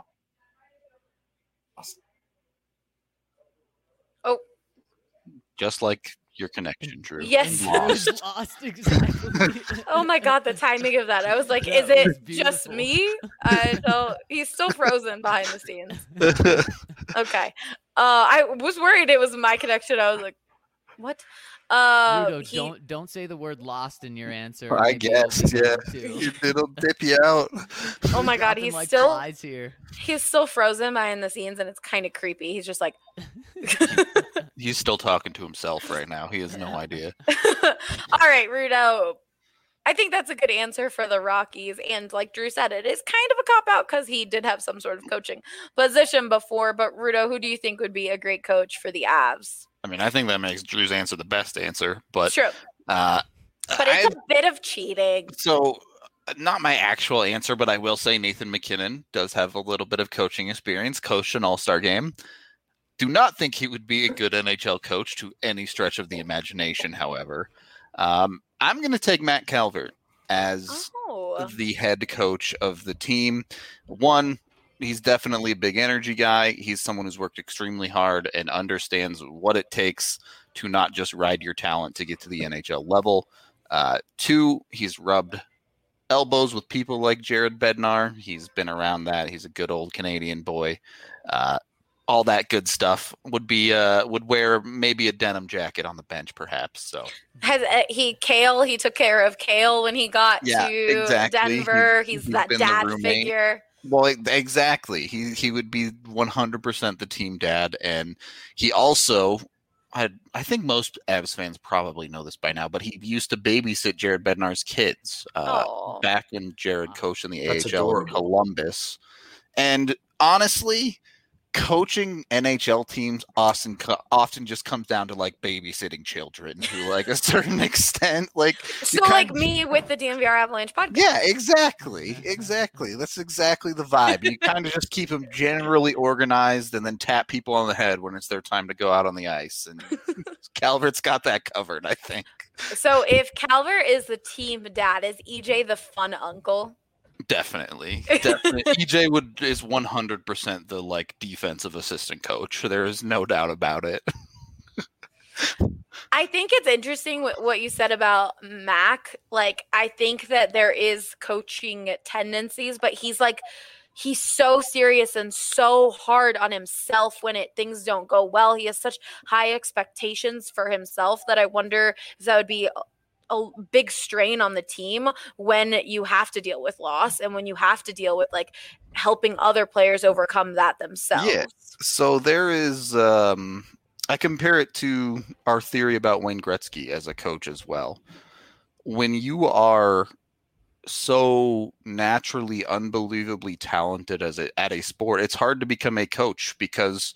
Oh.
Just like your connection, Drew.
Yes.
Lost. Lost, exactly.
Oh my God, the timing of that. I was like, that is it just me? I don't, he's still frozen behind the scenes. Okay. Uh, I was worried it was my connection. I was like, what? Uh,
Rudo,
he,
don't don't say the word lost in your answer.
I
Maybe
guess, yeah. It'll dip you out.
Oh my God, he's
like
still
here.
He's still frozen behind the scenes, and it's kind of creepy. He's just like.
He's still talking to himself right now. He has no idea.
All right, Rudo. I think that's a good answer for the Rockies. And like Drew said, it is kind of a cop-out because he did have some sort of coaching position before. But Rudo, who do you think would be a great coach for the Avs?
I mean, I think that makes Drew's answer the best answer. But
true.
Uh,
but it's I, a bit of cheating.
So not my actual answer, but I will say Nathan McKinnon does have a little bit of coaching experience, coached an all-star game. Do not think he would be a good N H L coach to any stretch of the imagination, however. Um, I'm going to take Matt Calvert as
oh.
the head coach of the team. One, he's definitely a big energy guy. He's someone who's worked extremely hard and understands what it takes to not just ride your talent to get to the N H L level. Uh, two, he's rubbed elbows with people like Jared Bednar. He's been around that. He's a good old Canadian boy. Uh, all that good stuff. Would be uh, would wear maybe a denim jacket on the bench, perhaps. So
has uh, he Kale? He took care of Kale when he got
yeah,
to
exactly.
Denver.
He's,
He's,
he's
that dad figure.
Well, exactly. He he would be one hundred percent the team dad, and he also. I, I think most Avs fans probably know this by now, but he used to babysit Jared Bednar's kids uh, back when Jared coached in the That's A H L adorable. in Columbus. And honestly, coaching N H L teams often often just comes down to like babysitting children to like a certain extent. Like
so, like of, me with the D N V R Avalanche podcast.
Yeah, exactly, exactly. That's exactly the vibe. You kind of just keep them generally organized, and then tap people on the head when it's their time to go out on the ice. And Calvert's got that covered, I think.
So, if Calvert is the team dad, is E J the fun uncle?
Definitely, definitely. E J would is one hundred percent the like defensive assistant coach. There is no doubt about it.
I think it's interesting what, what you said about Mac. Like, I think that there is coaching tendencies, but he's like, he's so serious and so hard on himself when it things don't go well. He has such high expectations for himself that I wonder if that would be a big strain on the team when you have to deal with loss and when you have to deal with like helping other players overcome that themselves.
Yeah. So there is, um, I compare it to our theory about Wayne Gretzky as a coach as well. When you are so naturally, unbelievably talented as a, at a sport, it's hard to become a coach because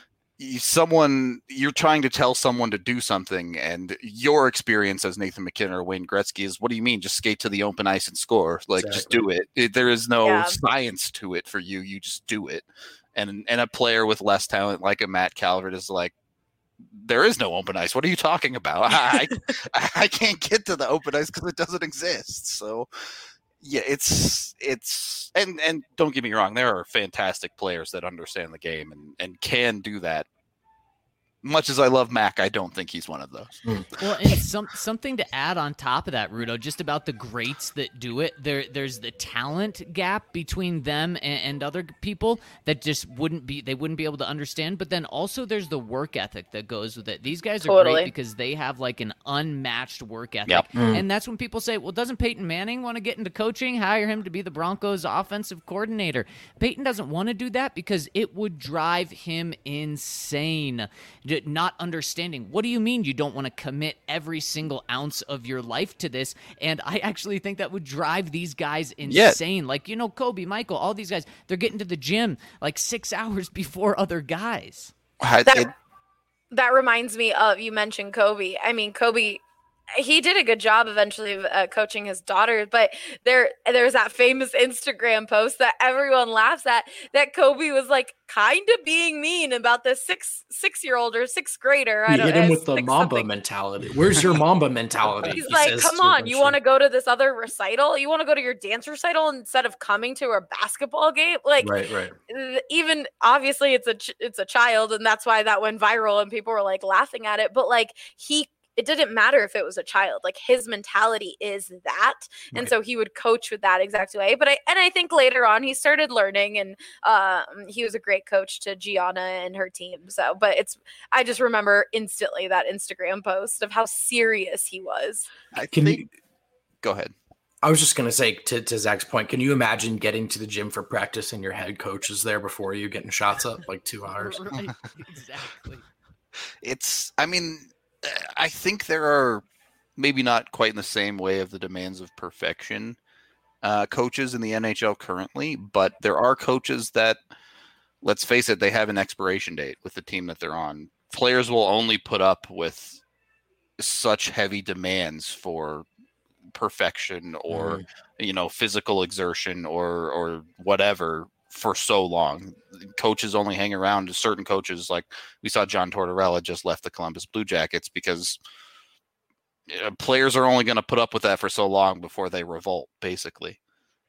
someone you're trying to tell someone to do something, and your experience as Nathan McKinnon or Wayne Gretzky is, what do you mean? Just skate to the open ice and score. Like, exactly. Just do it. it. There is no yeah. science to it for you. You just do it. And and a player with less talent like a Matt Calvert is like, there is no open ice. What are you talking about? I, I, I can't get to the open ice because it doesn't exist. So yeah, it's it's and and don't get me wrong, there are fantastic players that understand the game and, and can do that. Much as I love Mac, I don't think he's one of those.
Mm. Well, and some something to add on top of that, Rudo, just about the greats that do it. There, there's the talent gap between them and, and other people that just wouldn't be, they wouldn't be able to understand. But then also there's the work ethic that goes with it. These guys are totally. great because they have like an unmatched work ethic.
Yep. Mm.
And that's when people say, well, doesn't Peyton Manning want to get into coaching? Hire him to be the Broncos offensive coordinator. Peyton doesn't want to do that because it would drive him insane. Not understanding. What do you mean you don't want to commit every single ounce of your life to this? And I actually think that would drive these guys insane. Yeah. Like, you know, Kobe, Michael, all these guys, they're getting to the gym like six hours before other guys.
That, that reminds me of, you mentioned Kobe. I mean, Kobe, he did a good job eventually of uh, coaching his daughter, but there there's that famous Instagram post that everyone laughs at, that Kobe was like kind of being mean about the six six year old or sixth grader.
You
I don't
hit him
know,
with the Mamba something. mentality. Where's your Mamba mentality?
He's
he
like, come on, you want to go to this other recital? You want to go to your dance recital instead of coming to a basketball game? Like,
right, right.
Even obviously it's a ch- it's a child, and that's why that went viral and people were like laughing at it. But like he. It didn't matter if it was a child, like his mentality is that. And right. so he would coach with that exact way. But I, and I think later on he started learning, and um, he was a great coach to Gianna and her team. So, but it's, I just remember instantly that Instagram post of how serious he was.
I can think, you, go ahead.
I was just going to say to, to Zach's point, can you imagine getting to the gym for practice and your head coach is there before you getting shots up like two hours?
Right. Exactly.
It's, I mean, I think there are maybe not quite in the same way of the demands of perfection uh, coaches in the N H L currently, but there are coaches that, let's face it, they have an expiration date with the team that they're on. Players will only put up with such heavy demands for perfection or, mm. you know, physical exertion or or whatever for so long. Coaches only hang around. Certain coaches, like we saw John Tortorella just left the Columbus Blue Jackets because players are only going to put up with that for so long before they revolt, basically.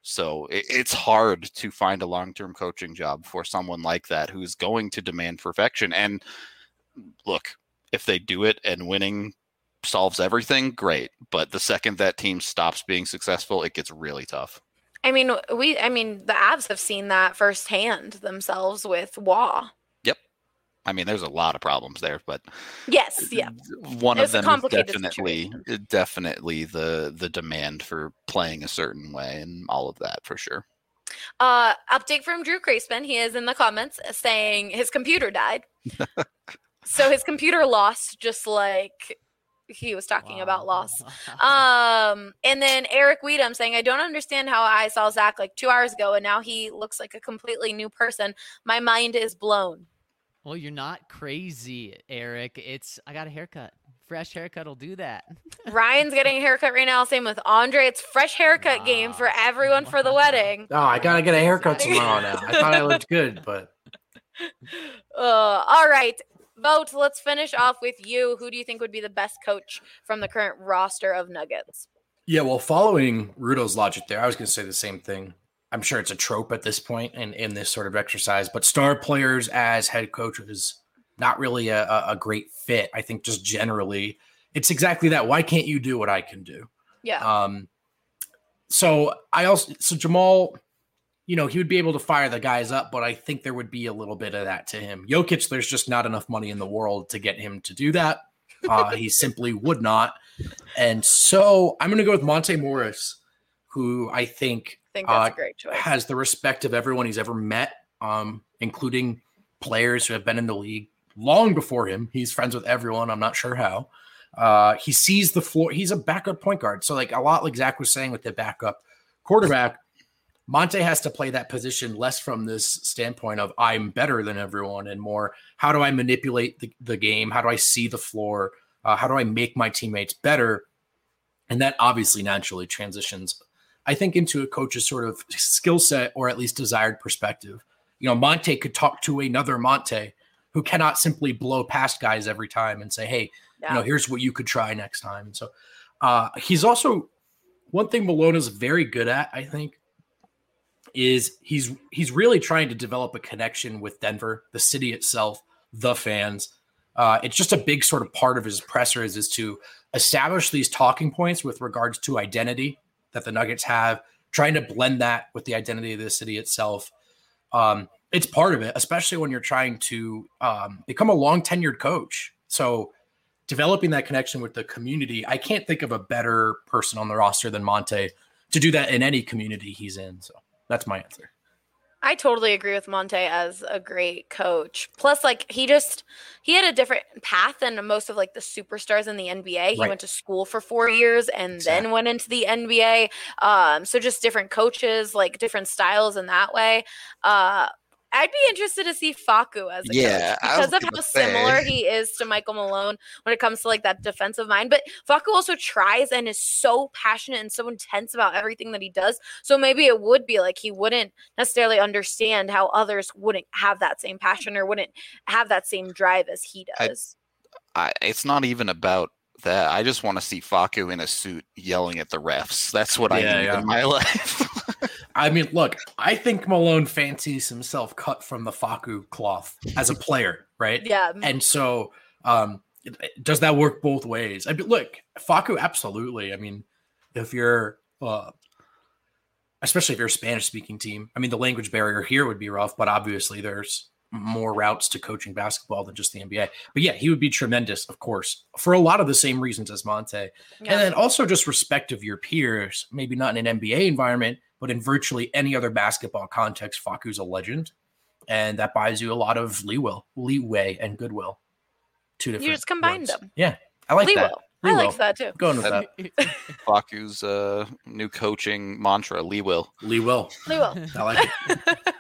So it, it's hard to find a long-term coaching job for someone like that who's going to demand perfection. And look, if they do it and winning solves everything, great. But the second that team stops being successful, it gets really tough.
I mean, we, I mean, the Avs have seen that firsthand themselves with Waugh.
Yep. I mean, there's a lot of problems there, but
yes, yeah.
One
It's
of
a
them is
complicated
definitely,
situation.
definitely the the demand for playing a certain way and all of that for sure.
Uh, update from Drew Kreisman. He is in the comments saying his computer died. So his computer lost, just like he was talking
Wow.
about loss. Um, and then Eric Weedham saying, I don't understand how I saw Zach like two hours ago and now he looks like a completely new person. My mind is blown.
Well, you're not crazy, Eric. It's I got a haircut. Fresh haircut will do that.
Ryan's getting a haircut right now. Same with Andre. It's fresh haircut
Wow.
game for everyone for the wedding.
Oh, I gotta get a haircut tomorrow now. I thought I looked good, but
Uh, all right. Vote. Let's finish off with you. Who do you think would be the best coach from the current roster of Nuggets?
yeah, well, following Rudo's logic there, I was gonna say the same thing. I'm sure it's a trope at this point in, in this sort of exercise, but star players as head coaches, not really a, a, a great fit. I think just generally, it's exactly that. Why can't you do what I can do?
Yeah.
Um, so I also, so Jamal, you know, he would be able to fire the guys up, but I think there would be a little bit of that to him. Jokic, there's just not enough money in the world to get him to do that. Uh, he simply would not. And so I'm going to go with Monte Morris, who I think,
I think that's
uh,
a great choice.
has the respect of everyone he's ever met, um, including players who have been in the league long before him. He's friends with everyone. I'm not sure how. Uh, he sees the floor. He's a backup point guard. So like a lot like Zach was saying with the backup quarterback, Monte has to play that position less from this standpoint of I'm better than everyone and more how do I manipulate the, the game? How do I see the floor? Uh, how do I make my teammates better? And that obviously naturally transitions, I think, into a coach's sort of skill set or at least desired perspective. You know, Monte could talk to another Monte who cannot simply blow past guys every time and say, hey,
Yeah.
you know, here's what you could try next time. So uh, he's also one thing Malone is very good at, I think, is he's he's really trying to develop a connection with Denver, the city itself, the fans. Uh, it's just a big sort of part of his pressers is to establish these talking points with regards to identity that the Nuggets have, trying to blend that with the identity of the city itself. Um, it's part of it, especially when you're trying to um, become a long tenured coach. So developing that connection with the community, I can't think of a better person on the roster than Monte to do that in any community he's in. So that's my answer.
I totally agree with Monte as a great coach. Plus, like, he just, he had a different path than most of, like, the superstars in the N B A. He
Right.
went to school for four years and
Exactly.
then went into the N B A. Um, so just different coaches, like, different styles in that way. Uh, I'd be interested to see Facu as a
Yeah,
coach
I was
because of
gonna
how
say.
similar he is to Michael Malone when it comes to like that defensive mind. But Facu also tries and is so passionate and so intense about everything that he does. So maybe it would be like he wouldn't necessarily understand how others wouldn't have that same passion or wouldn't have that same drive as he
I-
does.
I, it's not even about that. I just want to see Facu in a suit yelling at the refs. That's what I
Yeah,
need
yeah.
in my life.
I mean, look, I think Malone fancies himself cut from the Facu cloth as a player, right?
Yeah.
And so, um, does that work both ways? I mean, look, Facu, absolutely. I mean, if you're, uh, especially if you're a Spanish-speaking team, I mean, the language barrier here would be rough, but obviously there's more routes to coaching basketball than just the N B A. But yeah, he would be tremendous, of course, for a lot of the same reasons as Monte.
Yeah.
And then also just respect of your peers, maybe not in an N B A environment, but in virtually any other basketball context, Facu's a legend. And that buys you a lot of leeway, leeway and goodwill. Two different
You just combined
words.
them.
Yeah, I like
Lee
that.
will. I
Lee
like
will.
that too.
Going with that.
Facu's uh, new coaching mantra, Lee will.
Lee will.
Lee will.
I like it.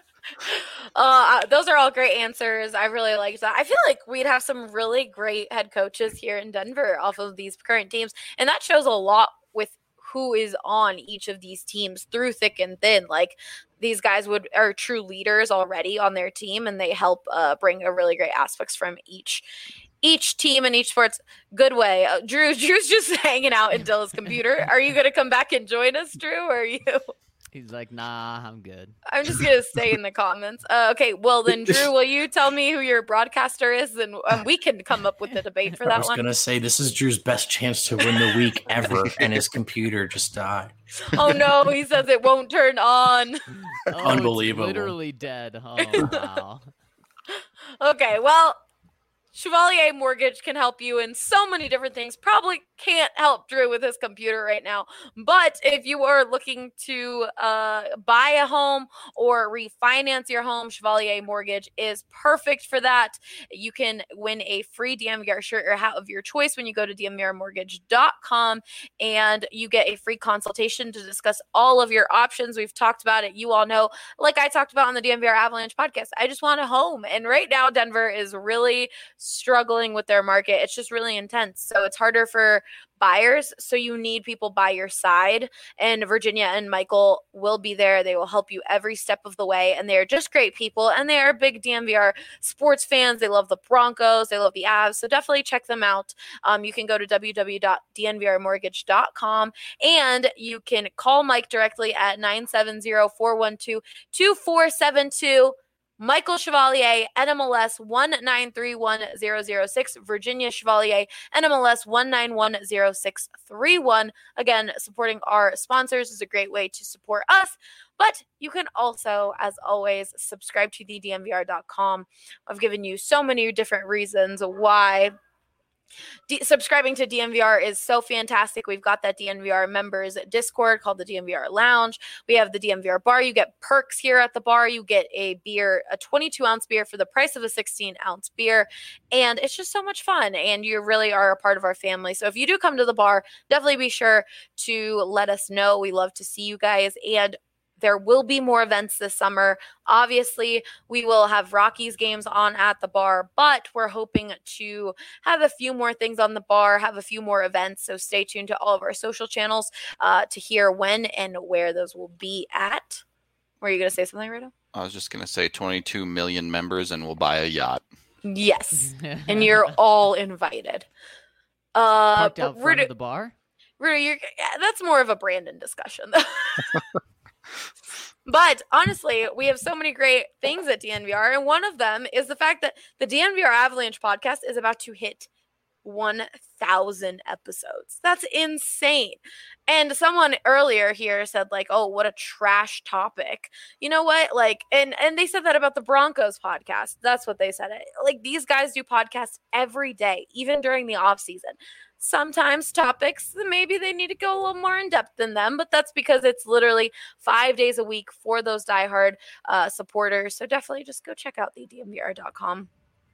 Uh, those are all great answers. I really liked that. I feel like we'd have some really great head coaches here in Denver off of these current teams. And that shows a lot with who is on each of these teams through thick and thin. Like these guys would are true leaders already on their team, and they help uh, bring a really great aspects from each each team and each sports good way. Uh, Drew, Drew's just hanging out in Dilla's computer. Are you going to come back and join us, Drew? Or are you?
He's like, nah, I'm good.
I'm just going to stay in the comments. Uh, okay, well then, Drew, will you tell me who your broadcaster is? And um, we can come up with a debate for that one.
I was going to say, this is Drew's best chance to win the week ever, and his computer just died.
Oh, no, he says it won't turn on.
Oh,
Unbelievable.
It's literally dead. Oh, wow.
Okay, well, Chevalier Mortgage can help you in so many different things. Probably can't help Drew with his computer right now. But if you are looking to uh, buy a home or refinance your home, Chevalier Mortgage is perfect for that. You can win a free D M V R shirt or hat of your choice when you go to D M V R mortgage dot com, and you get a free consultation to discuss all of your options. We've talked about it. You all know, like I talked about on the D M V R Avalanche podcast, I just want a home. And right now, Denver is really struggling with their market. It's just really intense. So it's harder for buyers. So you need people by your side. And Virginia and Michael will be there. They will help you every step of the way. And they're just great people. And they are big D M V R sports fans. They love the Broncos. They love the Avs. So definitely check them out. Um, you can go to w w w dot d n v r mortgage dot com and you can call Mike directly at nine seven zero, four one two, two four seven two. Michael Chevalier, N M L S one nine three one zero zero six, Virginia Chevalier, N M L S one nine one zero six three one. Again, supporting our sponsors is a great way to support us, but you can also, as always, subscribe to the D M V R dot com. I've given you so many different reasons why D- subscribing to D M V R is so fantastic. We've got that D M V R members Discord called the D M V R Lounge. We have the D M V R bar. You get perks here at the bar. You get a beer, a twenty-two ounce beer for the price of a sixteen ounce beer. And it's just so much fun. And you really are a part of our family. So if you do come to the bar, definitely be sure to let us know. We love to see you guys. And there will be more events this summer. Obviously, we will have Rockies games on at the bar, but we're hoping to have a few more things on the bar, have a few more events. So stay tuned to all of our social channels uh, to hear when and where those will be at. Were you going to say something, Rito?
I was just going to say twenty-two million members and we'll buy a yacht.
Yes. And you're all invited. Uh,
Parked out front
Rito,
of the bar?
Rito, you're, that's more of a Brandon discussion, though. But honestly, we have so many great things at D N V R, and one of them is the fact that the D N V R Avalanche podcast is about to hit one thousand episodes. That's insane. And someone earlier here said, like, oh, what a trash topic. You know what? Like, and, and they said that about the Broncos podcast. That's what they said. Like, these guys do podcasts every day, even during the off season. Sometimes topics, maybe they need to go a little more in depth than them, but that's because it's literally five days a week for those diehard uh, supporters. So definitely just go check out the D M V R dot com.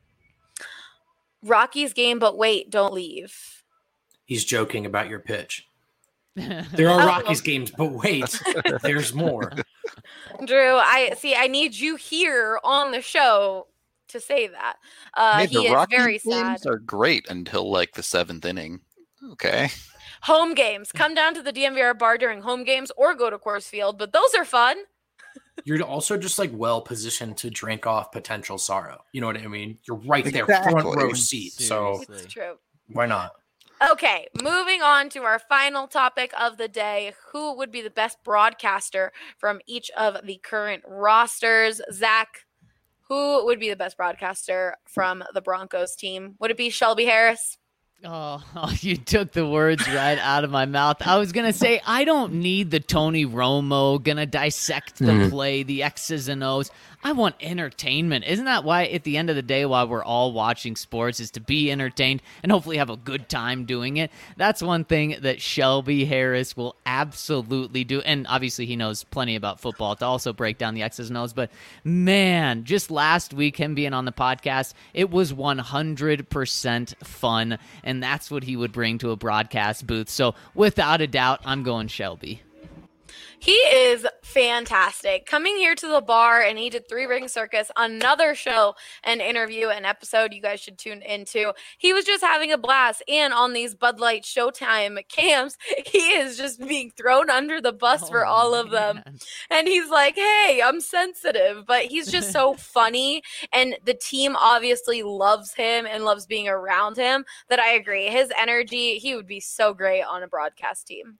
Rockies game, but wait, don't leave.
He's joking about your pitch. There are Rockies games, but wait, there's more.
Drew, I see. I need you here on the show to say that. Uh,
hey,
he
the
is
Rockies
very sad.
games are great until like the seventh inning. Okay.
Home games. Come down to the D M V R bar during home games or go to Coors Field, but those are fun.
You're also just like well positioned to drink off potential sorrow. You know what I mean? You're right there,
Exactly.
front row seat. So
It's true.
why not?
Okay, moving on to our final topic of the day. Who would be the best broadcaster from each of the current rosters? Zach, who would be the best broadcaster from the Broncos team? Would it be Shelby Harris?
Oh, you took the words right out of my mouth. I was going to say, I don't need the Tony Romo, going to dissect the mm. play, the X's and O's. I want entertainment. Isn't that why at the end of the day, why we're all watching sports is to be entertained and hopefully have a good time doing it? That's one thing that Shelby Harris will absolutely do. And obviously he knows plenty about football to also break down the X's and O's. But man, just last week, him being on the podcast, it was one hundred percent fun. And that's what he would bring to a broadcast booth. So without a doubt, I'm going Shelby.
He is fantastic. Coming here to the bar, and he did Three Ring Circus, another show, an interview, an episode you guys should tune into. He was just having a blast. And on these Bud Light Showtime camps, he is just being thrown under the bus oh, for all of them. Man. And he's like, hey, I'm sensitive. But he's just so funny. And the team obviously loves him and loves being around him that I agree. His energy, he would be so great on a broadcast team.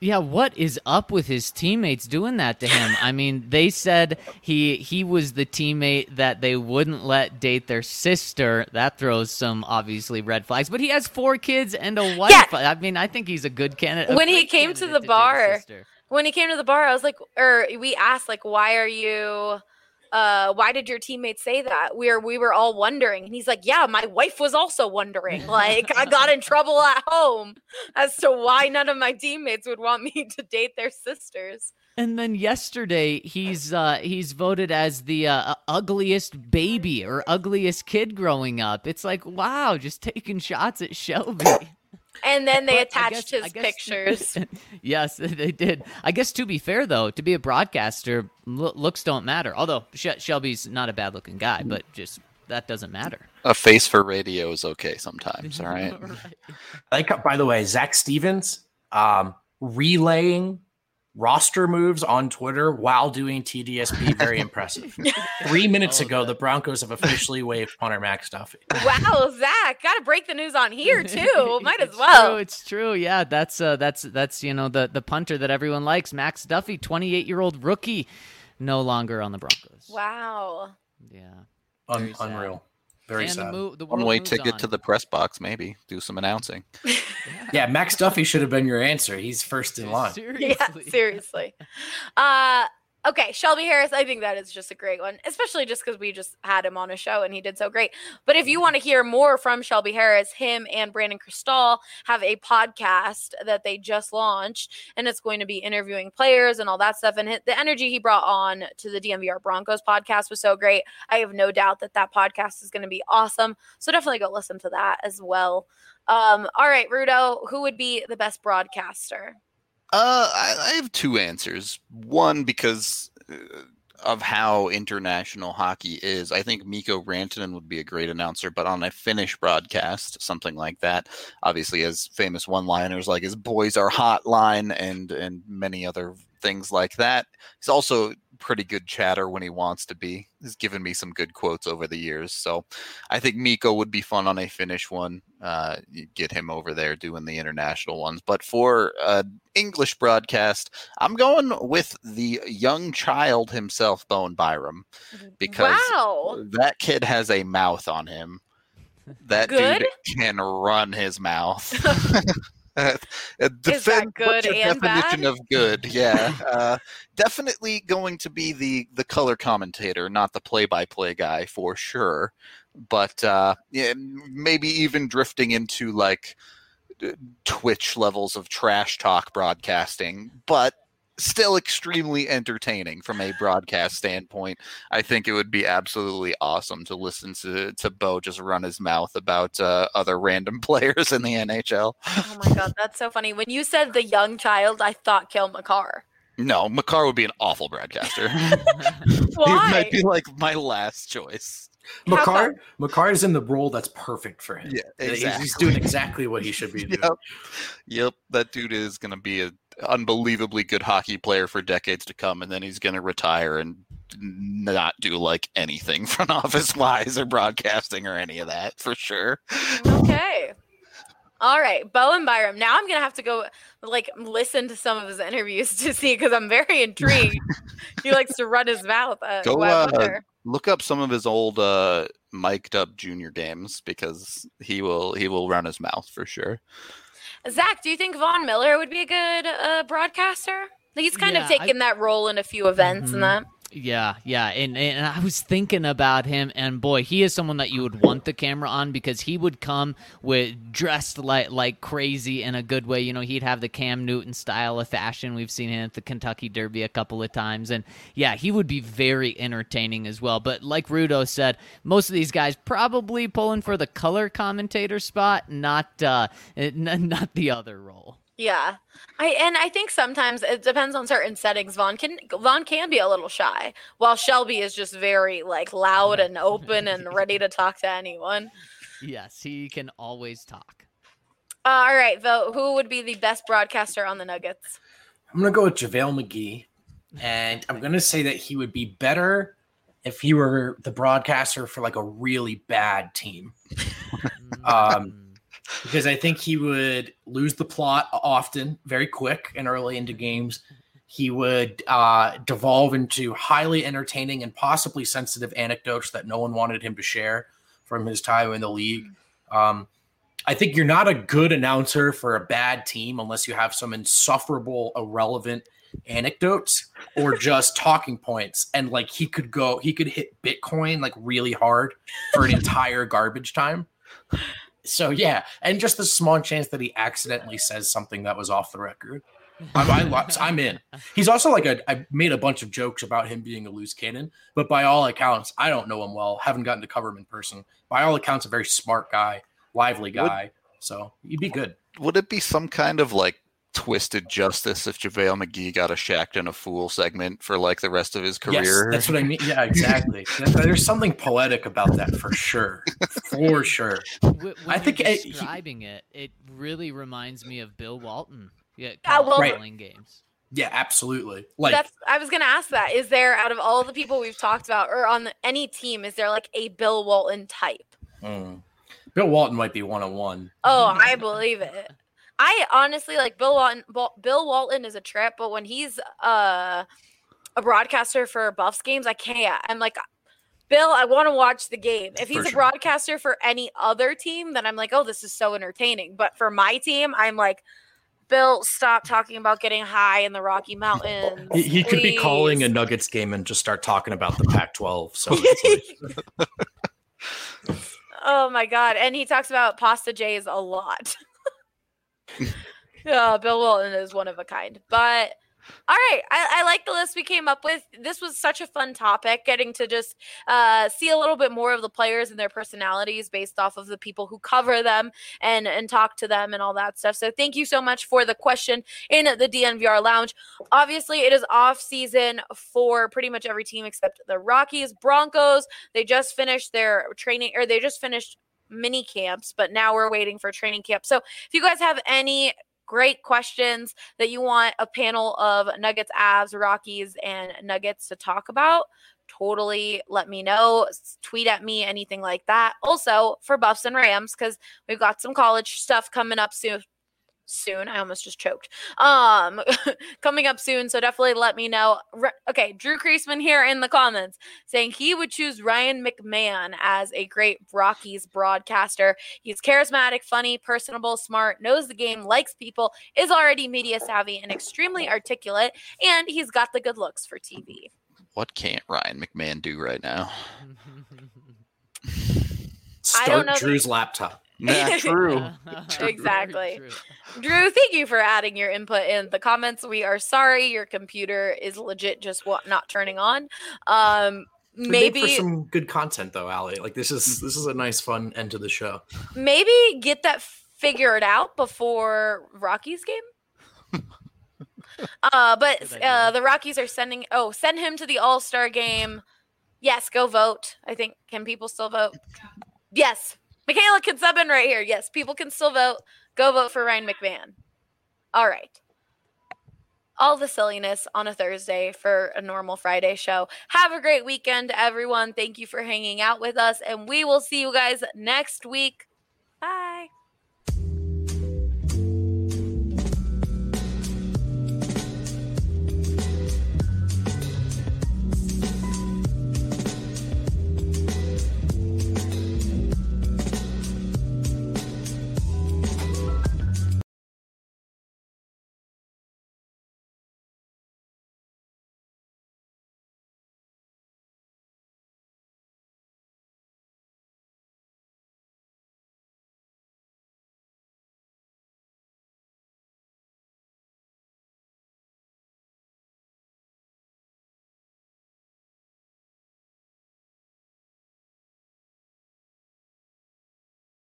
Yeah, what is up with his teammates doing that to him? I mean, they said he he was the teammate that they wouldn't let date their sister. That throws some obviously red flags. But he has four kids and a wife.
Yeah.
I mean, I think he's a good candidate.
When he came to the bar, when he came to the bar, I was like, or we asked, like, why are you? Uh, why did your teammates say that? We were we were all wondering. And he's like, yeah, my wife was also wondering. Like, I got in trouble at home as to why none of my teammates would want me to date their sisters.
And then yesterday, he's uh, he's voted as the uh, ugliest baby or ugliest kid growing up. It's like, wow, just taking shots at Shelby.
And then they
But I
attached
guess- I
his
guess-
pictures.
Yes, they did. I guess to be fair, though, to be a broadcaster, lo- looks don't matter. Although Sh- Shelby's not a bad-looking guy, but just that doesn't matter.
A face for radio is okay sometimes, all right?
I like, by the way, Zach Stevens um, relaying roster moves on Twitter while doing T D S P. Very impressive. Three minutes
Oh,
ago,
that-
the Broncos have officially waived punter Max Duffy.
Wow, Zach, got to break the news on here too. Might as
It's
well.
True, it's true. Yeah, that's uh, that's that's you know the the punter that everyone likes, Max Duffy, twenty-eight-year-old rookie, no longer on the Broncos.
Wow.
Yeah.
Un-
Very sad.
unreal. Very
and
sad.
the, mo- the
One
world
way
moves
ticket
on.
to the press box, maybe. Do some announcing.
Yeah, Max Duffy should have been your answer. He's first in line.
Seriously.
Yeah, seriously. Uh, okay, Shelby Harris, I think that is just a great one, especially just because we just had him on a show and he did so great. But if you want to hear more from Shelby Harris, him and Brandon Cristal have a podcast that they just launched, and it's going to be interviewing players and all that stuff. And the energy he brought on to the D M V R Broncos podcast was so great. I have no doubt that that podcast is going to be awesome. So definitely go listen to that as well. Um, all right, Rudo, who would be the best broadcaster?
Uh, I, I have two answers. One, because uh, of how international hockey is, I think Mikko Rantanen would be a great announcer, but on a Finnish broadcast, something like that, obviously has famous one-liners like his "boys are hotline" and and many other things like that. He's also pretty good chatter when he wants to be. He's given me some good quotes over the years, so I think Mikko would be fun on a Finnish one. Uh, you get him over there doing the international ones. But for uh, English broadcast, I'm going with the young child himself, Bowen Byram, because
Wow.
that kid has a mouth on him. That
Good?
dude can run his mouth. Uh, uh,
Is that
defend- what's
good
your
and
definition
bad?
of good? Yeah, uh, definitely going to be the the color commentator, not the play-by-play guy for sure. But uh, yeah, maybe even drifting into like Twitch levels of trash talk broadcasting, but still extremely entertaining from a broadcast standpoint. I think it would be absolutely awesome to listen to to Bo just run his mouth about uh, other random players in the N H L.
Oh my god, that's so funny. When you said the young child, I thought Kel McCarr.
No, Makar would be an awful broadcaster.
Why?
He might be like my last choice.
How
McCart, McCart is in the role that's perfect for him.
Yeah,
He's- He's
exactly.
doing exactly what he should be doing.
Yep. Yep, that dude is going to be an unbelievably good hockey player for decades to come, and then he's going to retire and not do like anything front office wise or broadcasting or any of that for sure.
Okay. All right, Bowen Byram. Now I'm gonna have to go like listen to some of his interviews to see because I'm very intrigued. He likes to run his mouth. Uh,
Go,
I
uh,
wonder.
Look up some of his old uh, mic'd up junior games because he will he will run his mouth for sure.
Zach, do you think Von Miller would be a good uh, broadcaster? He's kind
Yeah,
of taken that role in a few events
Mhm.
and that.
Yeah, yeah, and and I was thinking about him, and boy, he is someone that you would want the camera on because he would come with dressed like like crazy in a good way. You know, he'd have the Cam Newton style of fashion. We've seen him at the Kentucky Derby a couple of times, and yeah, he would be very entertaining as well. But like Rudo said, most of these guys probably pulling for the color commentator spot, not uh, n- not the other role.
Yeah, I and I think sometimes it depends on certain settings. Vaughn can Vaughn can be a little shy, while Shelby is just very like loud and open and ready to talk to anyone.
Yes, he can always talk.
Uh, all right, Vo, who would be the best broadcaster on the Nuggets?
I'm going to go with JaVale McGee, and I'm going to say that he would be better if he were the broadcaster for like a really bad team. Um, because I think he would lose the plot often, very quick and early into games. He would uh, devolve into highly entertaining and possibly sensitive anecdotes that no one wanted him to share from his time in the league. Um, I think you're not a good announcer for a bad team unless you have some insufferable, irrelevant anecdotes or just talking points. And like he could go, he could hit Bitcoin like really hard for an entire garbage time. So yeah, and just the small chance that he accidentally says something that was off the record. I'm, I, I'm in. He's also like a. I made a bunch of jokes about him being a loose cannon, but by all accounts, I don't know him well. Haven't gotten to cover him in person. By all accounts, a very smart guy, lively guy. Would, so he'd be good.
Would it be some kind of like twisted justice if JaVale McGee got a Shacked and a Fool segment for like the rest of his career?
Yes, that's what I mean. Yeah, exactly. There's something poetic about that for sure. For sure.
When
I think
describing it, it, it really reminds me of Bill Walton. Yeah,
yeah well,
calling games.
Yeah, absolutely. Like
that's, I was going to ask that. Is there, out of all the people we've talked about, or on the, any team, is there like a Bill Walton type?
Mm. Bill Walton might be one on one.
Oh, I believe it. I honestly like Bill Walton. Bill Walton is a trip, but when he's uh, a broadcaster for Buffs games, I can't. I'm like, Bill, I want to watch the game. If he's for a sure. broadcaster for any other team, then I'm like, oh, this is so entertaining. But for my team, I'm like, Bill, stop talking about getting high in the Rocky Mountains.
He, he could be calling a Nuggets game and just start talking about the Pac twelve. So, like...
oh my God! And he talks about Pasta J's a lot. Yeah, Bill Walton is one of a kind. But all right, I, I like the list we came up with. This was such a fun topic, getting to just uh, see a little bit more of the players and their personalities based off of the people who cover them and, and talk to them and all that stuff. So thank you so much for the question in the D N V R Lounge. Obviously, it is off season for pretty much every team except the Rockies. Broncos, they just finished their training, or they just finished mini camps, but now we're waiting for training camp. So if you guys have any great questions that you want a panel of Nuggets, Avs, Rockies, and Nuggets to talk about, totally let me know. Tweet at me, anything like that. Also for Buffs and Rams, because we've got some college stuff coming up soon. Soon. I almost just choked. Um, coming up soon. So definitely let me know. Re- okay. Drew Kreisman here in the comments saying he would choose Ryan McMahon as a great Rockies broadcaster. He's charismatic, funny, personable, smart, knows the game, likes people, is already media savvy and extremely articulate. And he's got the good looks for T V.
What can't Ryan McMahon do right now?
Start
I don't know
Drew's
the-
laptop.
Not true.
Exactly.
True.
Drew, thank you for adding your input in the comments. We are sorry your computer is legit just what not turning on. Um,
We
maybe
made for some good content though, Allie. Like this is this is a nice fun end to the show.
maybe get that figured out before Rockies game. uh, but uh, the Rockies are sending. Oh, send him to the All-Star game. Yes, go vote. I think can people still vote? Yes. Michaela can sub in right here. Yes, people can still vote. Go vote for Ryan McMahon. All right. All the silliness on a Thursday for a normal Friday show. Have a great weekend, everyone. Thank you for hanging out with us, and we will see you guys next week. Bye.